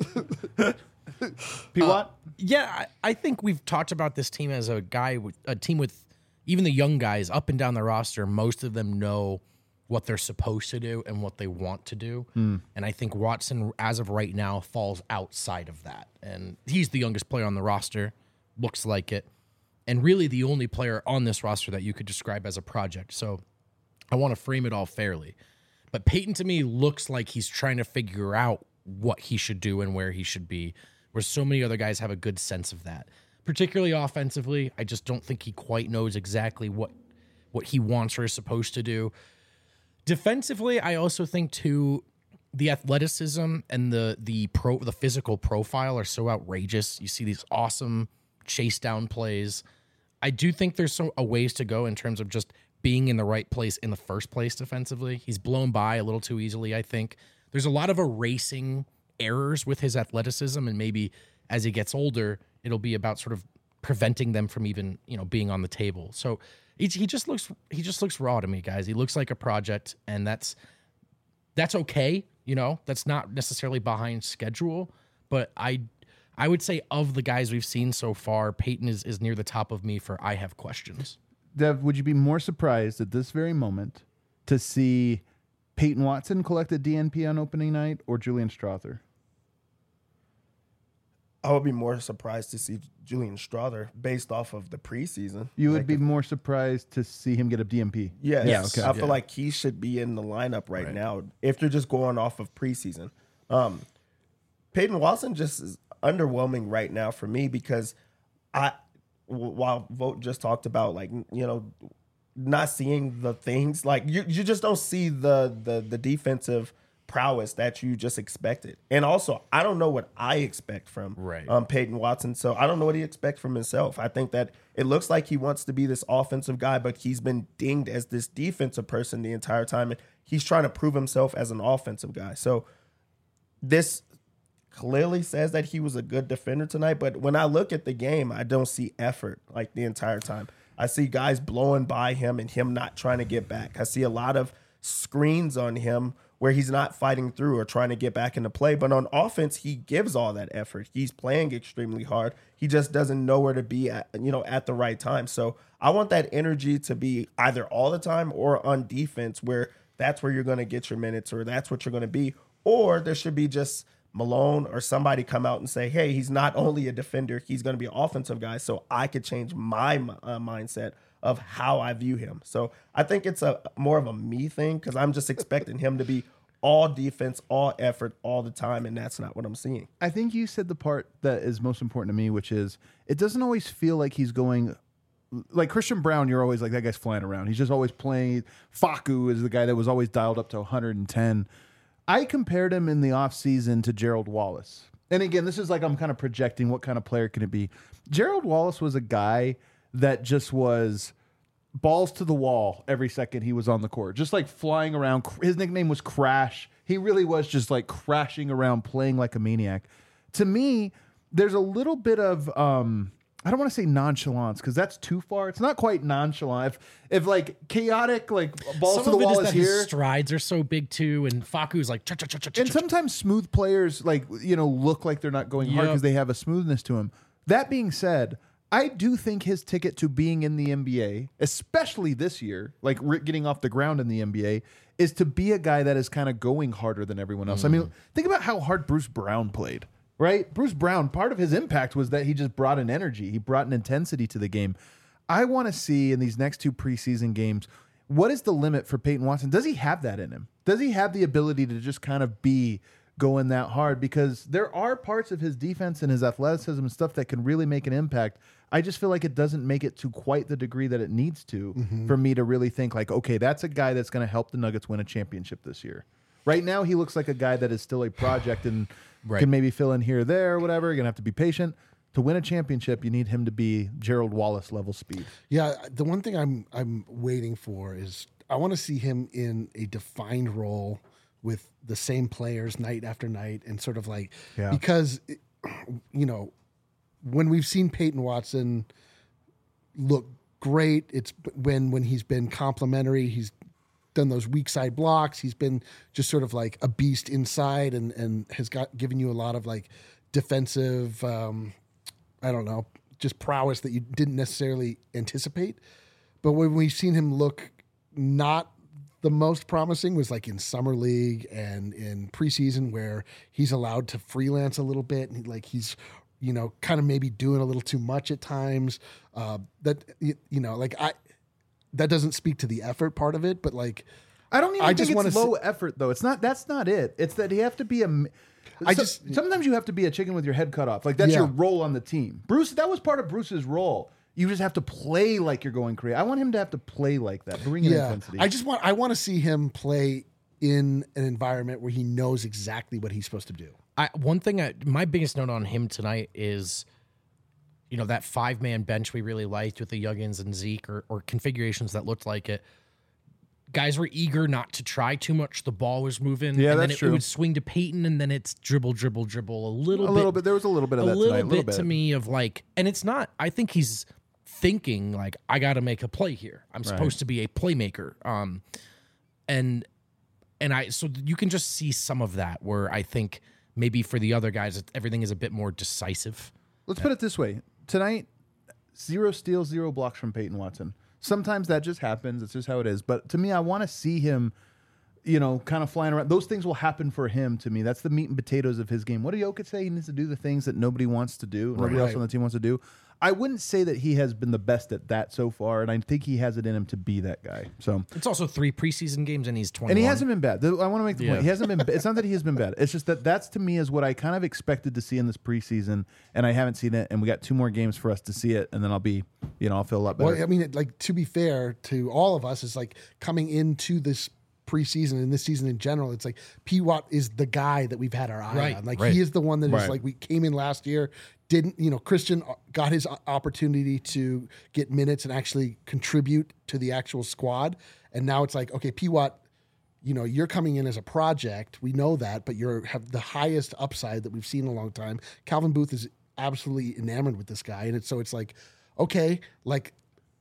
P W A T? Yeah, I, I think we've talked about this team as a guy with a team with even the young guys up and down the roster. Most of them know what they're supposed to do and what they want to do. And I think Watson, as of right now, falls outside of that. And he's the youngest player on the roster, looks like it, and really the only player on this roster that you could describe as a project. So I want to frame it all fairly. But Peyton, to me, looks like he's trying to figure out what he should do and where he should be, where so many other guys have a good sense of that. Particularly offensively, I just don't think he quite knows exactly what what he wants or is supposed to do. Defensively, I also think, too, the athleticism and the the pro the physical profile are so outrageous. You see these awesome chase down plays. I do think there's some a ways to go in terms of just being in the right place in the first place defensively. He's blown by a little too easily, I think. There's a lot of erasing errors with his athleticism, and maybe as he gets older, it'll be about sort of preventing them from even, you know, being on the table. So he, he just looks he just looks raw to me, guys. He looks like a project, and that's that's okay. You know, that's not necessarily behind schedule, but I I would say of the guys we've seen so far, Peyton is, is near the top of me for I have questions. Dev, would you be more surprised at this very moment to see Peyton Watson collect a D N P on opening night or Julian Strawther? I would be more surprised to see Julian Strawther based off of the preseason. You would Like, be if- more surprised to see him get a D M P. Yes. Yes. I Okay. feel Yeah. like he should be in the lineup right, now if you're just going off of preseason. Um, Peyton Watson just is underwhelming right now for me because I, w- while Vogt just talked about like, you know, not seeing the things like you, you just don't see the, the, the defensive prowess that you just expected. And also, I don't know what I expect from Right. um, Peyton Watson. So I don't know what he expects from himself. I think that it looks like he wants to be this offensive guy, but he's been dinged as this defensive person the entire time. And he's trying to prove himself as an offensive guy. So this clearly says that he was a good defender tonight. But when I look at the game, I don't see effort like the entire time. I see guys blowing by him and him not trying to get back. I see a lot of screens on him where he's not fighting through or trying to get back into play. But on offense, he gives all that effort. He's playing extremely hard. He just doesn't know where to be at, you know, at the right time. So I want that energy to be either all the time or on defense where that's where you're going to get your minutes or that's what you're going to be. Or there should be just Malone or somebody come out and say, hey, he's not only a defender, he's going to be an offensive guy. So I could change my uh, mindset of how I view him. So I think it's a more of a me thing because I'm just expecting him to be all defense, all effort, all the time, and that's not what I'm seeing. I think you said the part that is most important to me, which is it doesn't always feel like he's going like Christian Brown. You're always like, that guy's flying around. He's just always playing. Facu is the guy that was always dialed up to one hundred ten. I compared him in the offseason to Gerald Wallace. And again, this is like I'm kind of projecting what kind of player can it be. Gerald Wallace was a guy that just was balls to the wall every second he was on the court, just like flying around. His nickname was Crash. He really was just like crashing around, playing like a maniac. To me, there's a little bit of um, I don't want to say nonchalance because that's too far. It's not quite nonchalant. If if like chaotic, like balls Some to the of it wall is is that his here. strides are so big too, and Faku's like, cha cha cha cha cha. And sometimes smooth players, like, you know, look like they're not going hard Yep. because they have a smoothness to them. That being said, I do think his ticket to being in the N B A, especially this year, like re- getting off the ground in the N B A, is to be a guy that is kind of going harder than everyone else. Mm. I mean, think about how hard Bruce Brown played, right? Bruce Brown, part of his impact was that he just brought an energy. He brought an intensity to the game. I want to see in these next two preseason games, what is the limit for Peyton Watson? Does he have that in him? Does he have the ability to just kind of be going that hard? Because there are parts of his defense and his athleticism and stuff that can really make an impact. I just feel like it doesn't make it to quite the degree that it needs to mm-hmm. for me to really think like, okay, that's a guy that's going to help the Nuggets win a championship this year. Right now, he looks like a guy that is still a project and right. can maybe fill in here or there or whatever. You're going to have to be patient. To win a championship, you need him to be Gerald Wallace level speed. Yeah, the one thing I'm I'm waiting for is I want to see him in a defined role with the same players night after night and sort of like yeah. because you know when we've seen Peyton Watson look great, it's when when he's been complimentary, he's done those weak side blocks, he's been just sort of like a beast inside and and has got given you a lot of like defensive um I don't know, just prowess that you didn't necessarily anticipate. But when we've seen him look not the most promising was like in summer league and in preseason where he's allowed to freelance a little bit. And like he's, you know, kind of maybe doing a little too much at times. Uh, that, you know, like I, that doesn't speak to the effort part of it, but like, I don't even I think just it's low see- effort though. It's not, that's not it. It's that you have to be a, I so, just sometimes you have to be a chicken with your head cut off. Like that's yeah. your role on the team. Bruce, that was part of Bruce's role. You just have to play like you're going crazy. I want him to have to play like that. Bring in yeah. intensity. I just want I want to see him play in an environment where he knows exactly what he's supposed to do. I, one thing, I, my biggest note on him tonight is, you know, that five man bench we really liked with the Yuggins and Zeke or, or configurations that looked like it. Guys were eager not to try too much. The ball was moving. Yeah, and that's then it, true. it would swing to Peyton, and then it's dribble, dribble, dribble. A little a bit. A little bit. There was a little bit of a that little tonight. A little bit bit to me of like, and it's not, I think he's thinking like, I got to make a play here. I'm supposed right. to be a playmaker. Um, and, and I, so you can just see some of that where I think maybe for the other guys, everything is a bit more decisive. Let's yeah. put it this way. Tonight, zero steals, zero blocks from Peyton Watson. Sometimes that just happens. It's just how it is. But to me, I want to see him, you know, kind of flying around. Those things will happen for him to me. That's the meat and potatoes of his game. What do Jokic say? He needs to do the things that nobody wants to do. Nobody right. else on the team wants to do. I wouldn't say that he has been the best at that so far, and I think he has it in him to be that guy. So it's also three preseason games, and he's twenty-one. And he hasn't been bad. I want to make the yeah. point. He hasn't been. It's not that he has been bad. It's just that that's to me is what I kind of expected to see in this preseason, and I haven't seen it. And we got two more games for us to see it, and then I'll be, you know, I'll feel a lot better. Well, I mean, like to be fair to all of us, is like coming into this preseason and this season in general, it's like P. Watt is the guy that we've had our eye right, on. Like right. he is the one that right. is like we came in last year, didn't you know? Christian got his opportunity to get minutes and actually contribute to the actual squad, and now it's like okay, P. Watt, you know, you're coming in as a project. We know that, but you're have the highest upside that we've seen in a long time. Calvin Booth is absolutely enamored with this guy, and it's so it's like okay, like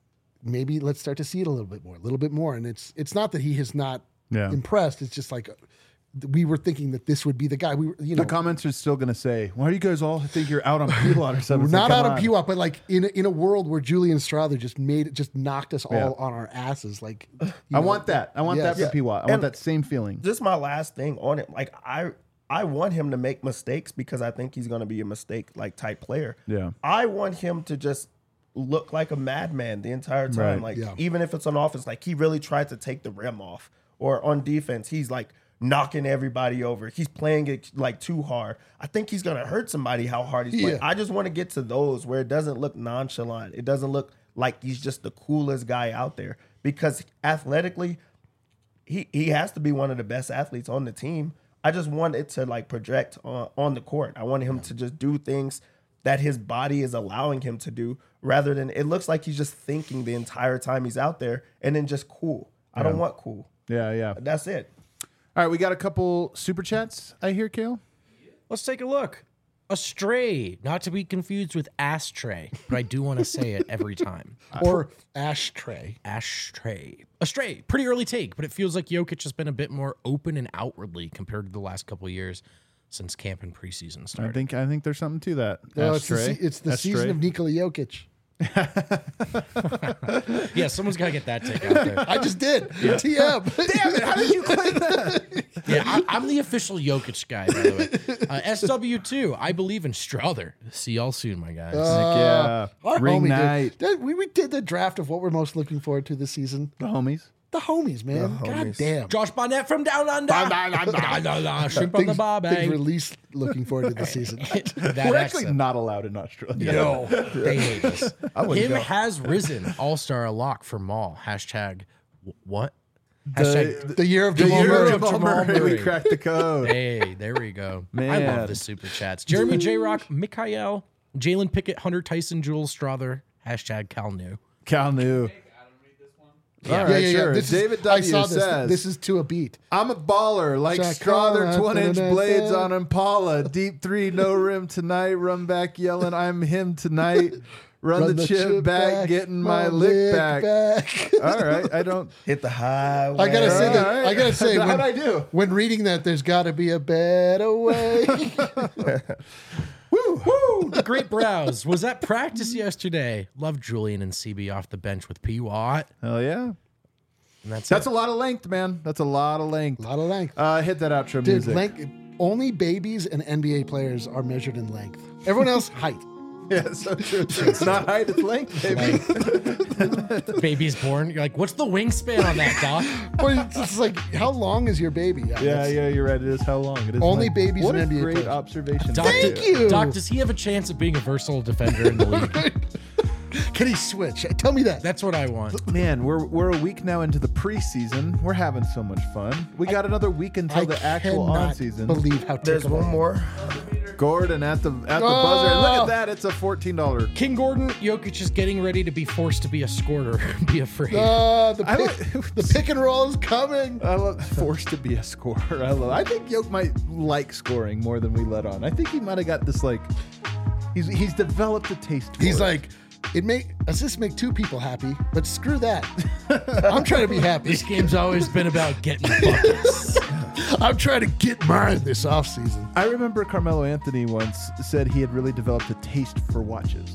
maybe let's start to see it a little bit more, a little bit more, and it's it's not that he has not. Yeah. Impressed. It's just like we were thinking that this would be the guy. We were, you know, the comments are still going to say, "Why do you guys all think you're out on P. Watt or something?" We're not like, out on. on P. Watt, but like in a, in a world where Julian Strawther just made it, just knocked us all yeah. on our asses. Like, I know, want that. I want yes. that for yeah. P. Watt. I and want that same feeling. Just my last thing on it. Like I, I want him to make mistakes because I think he's going to be a mistake like type player. Yeah. I want him to just look like a madman the entire time. Right. Like yeah. even if it's on offense, like he really tried to take the rim off. Or on defense, he's like knocking everybody over. He's playing it like too hard. I think he's going to hurt somebody how hard he's playing. Yeah. I just want to get to those where it doesn't look nonchalant. It doesn't look like he's just the coolest guy out there. Because athletically, he, he has to be one of the best athletes on the team. I just want it to like project on, on the court. I want him yeah. to just do things that his body is allowing him to do rather than it looks like he's just thinking the entire time he's out there and then just cool. I Yeah. don't want cool. Yeah, yeah. That's it. All right, we got a couple super chats. I hear, Kale. Let's take a look. Astray, not to be confused with ashtray, but I do want to say it every time. or ashtray. Ashtray. Astray, pretty early take, but it feels like Jokic has been a bit more open and outwardly compared to the last couple of years. since camp and preseason I started. think I think there's something to that. No, it's the, Ashtray. se- it's the Ashtray. season of Nikola Jokic. Yeah, someone's got to get that take out there. I just did. T M. Damn it! How did you claim that? Yeah, I, I'm the official Jokic guy, by the way. Uh, S W two, I believe in Strother. See y'all soon, my guys. yeah, Our ring homie night. did. Did- We, we did the draft of what we're most looking forward to this season. The homies. The homies, man. God homies. damn. Josh Barnett from Down Under. Da, da, da, Shrimp on the Things, barbie. things release looking forward to the season. That We're accent. actually not allowed in Australia. No, they hate us. wouldn't Him go. has risen. All-star lock for Maul. Hashtag wh- what? The, Hashtag The year of the Jamal year Murray. of Jamal Jamal Murray. We Murray. cracked the code. Hey, there we go. I Man. love the super chats. Jeremy J. Rock, Mikhail, Jalen Pickett, Hunter Tyson, Jules Strother. Hashtag Cal New. Cal knew. Yeah. All Yeah, right, yeah, sure. yeah. This David is, I W saw this. says, This is to a beat. I'm a baller, like Shot Strother, caller, twin-inch da-da-da-da. blades on Impala. Deep three, no rim tonight. Run back yelling, I'm him tonight. Run, Run the, chip, back, getting my, lick back. back. All right, I don't. Hit the highway. I gotta say All that. right. I gotta say, How'd when, I do? when reading that, there's got to be a better way. Woo, woo. The great browse. Was at practice yesterday. Love Julian and C B off the bench with P. Watt. Hell yeah. And that's That's it. a lot of length, man. That's a lot of a length. lot of length, Uh, hit that outro dude. music. Length. Only babies and N B A players are measured in length. Everyone else, height. Yeah, so true. It's not height, it's length, baby. Baby's born. You're like, what's the wingspan on that, Doc? Well, it's just like, how long is your baby? Yeah, it's- yeah, you're right. It is how long. It is Only length. babies What and a N B A great players. observation. Doc, Thank do- you. Doc, does he have a chance of being a versatile defender in the league? Can he switch? Tell me that. That's what I want. Man, we're we're a week now into the preseason. We're having so much fun. We got another week until I the actual cannot on season. believe how There's tickled I one am. more. Gordon at the at the Oh! buzzer. And look at that. It's a fourteen dollar. King Gordon, Jokic is getting ready to be forced to be a scorer. Be afraid. Uh, the, I pick, like- the pick and roll is coming. I love forced to be a scorer. I love. I think Yoke might like scoring more than we let on. I think he might have got this like. He's he's developed a taste. For He's it. like, it make assists make two people happy, but screw that. I'm trying to be happy. This game's always been about getting buckets. I'm trying to get mine this offseason. I remember Carmelo Anthony once said he had really developed a taste for watches.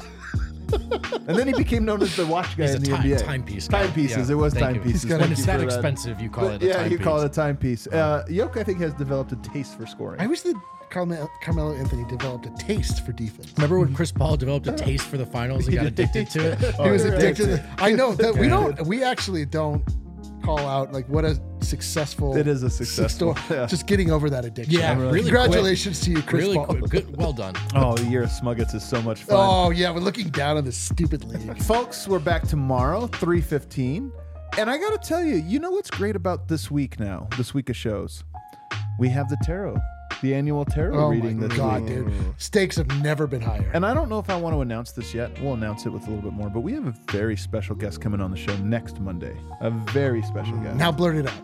And then he became known as the watch guy He's a in the time- N B A. timepie's guy. Timepieces. Yeah, it was thank you. timepieces. He's got- Thank When it's you that for expensive, you call But it a yeah, timepiece. you call it a timepiece. Uh, Yoke, I think, has developed a taste for scoring. I wish that Carmelo, Carmelo Anthony developed a taste for defense. Remember when Chris Paul developed a taste for the finals and got addicted to it? He was you're addicted. right. to I know that we don't. We actually don't call out like what a successful. It is a successful, sto- yeah. Just getting over that addiction. Yeah, really Congratulations to you, Chris Really Paul. quick. Good. Well done. Oh, the year of Smuggets is so much fun. Oh yeah, we're looking down on this stupid league. Folks, we're back tomorrow, three fifteen. And I got to tell you, you know what's great about this week now, this week of shows? We have the tarot, the annual tarot Oh reading my this god, week. dude! Stakes have never been higher. And I don't know if I want to announce this yet. We'll announce it with a little bit more, but we have a very special guest coming on the show next Monday. A very special guest. Now blurt it out.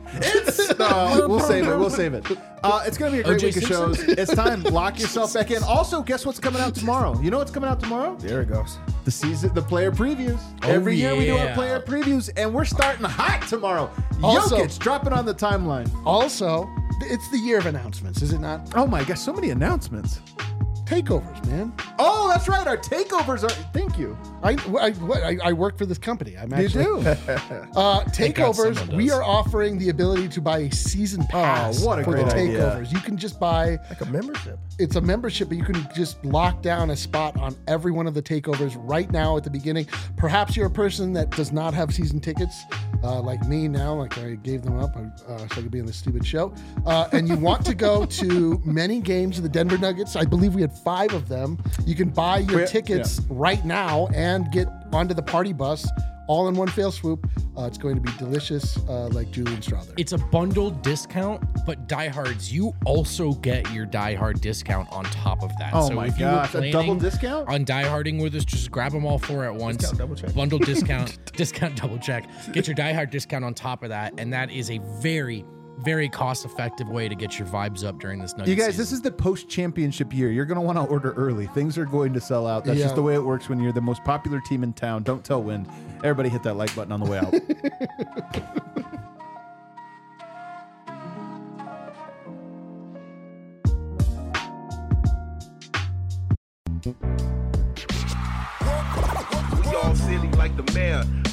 It's uh, we'll save it. We'll save it. Uh, it's gonna be a great O J week of Simpson? shows. It's time. Lock yourself back in. Also, guess what's coming out tomorrow? You know what's coming out tomorrow? There it goes. The season, the player previews. Oh, Every year we do our yeah. player previews, and we're starting hot tomorrow. Also- Jokic dropping on the timeline. Also, it's the year of announcements, is it not? Oh my gosh, so many announcements. Takeovers, man. Oh, that's right. Our takeovers are. Thank you. I, I, what, I, I work for this company. I'm You actually, do. Uh, God takeovers. someone We does. are offering the ability to buy a season pass Oh, what a for great the idea. takeovers. You can just buy. Like a membership. It's a membership, but you can just lock down a spot on every one of the takeovers right now at the beginning. Perhaps you're a person that does not have season tickets, uh, like me now. Like I gave them up uh, so I could be on this stupid show, uh, and you want to go to many games of the Denver Nuggets. I believe we had five of them. You can buy your We- tickets right now and get onto the party bus all in one fell swoop. Uh, it's going to be delicious, uh, like Julian Strother. It's a bundled discount, but diehards, you also get your diehard discount on top of that. Oh so my if gosh, you were a double planning discount? on dieharding with us, just grab them all four at once. Discount double check. Bundle discount, discount double check. Get your diehard discount on top of that, and that is a very, very cost-effective way to get your vibes up during this Nuggets You guys, season. this is the post-championship year. You're going to want to order early. Things are going to sell out. That's Yeah. just the way it works when you're the most popular team in town. Don't tell Wind. Everybody hit that like button on the way out. We all silly like the mayor.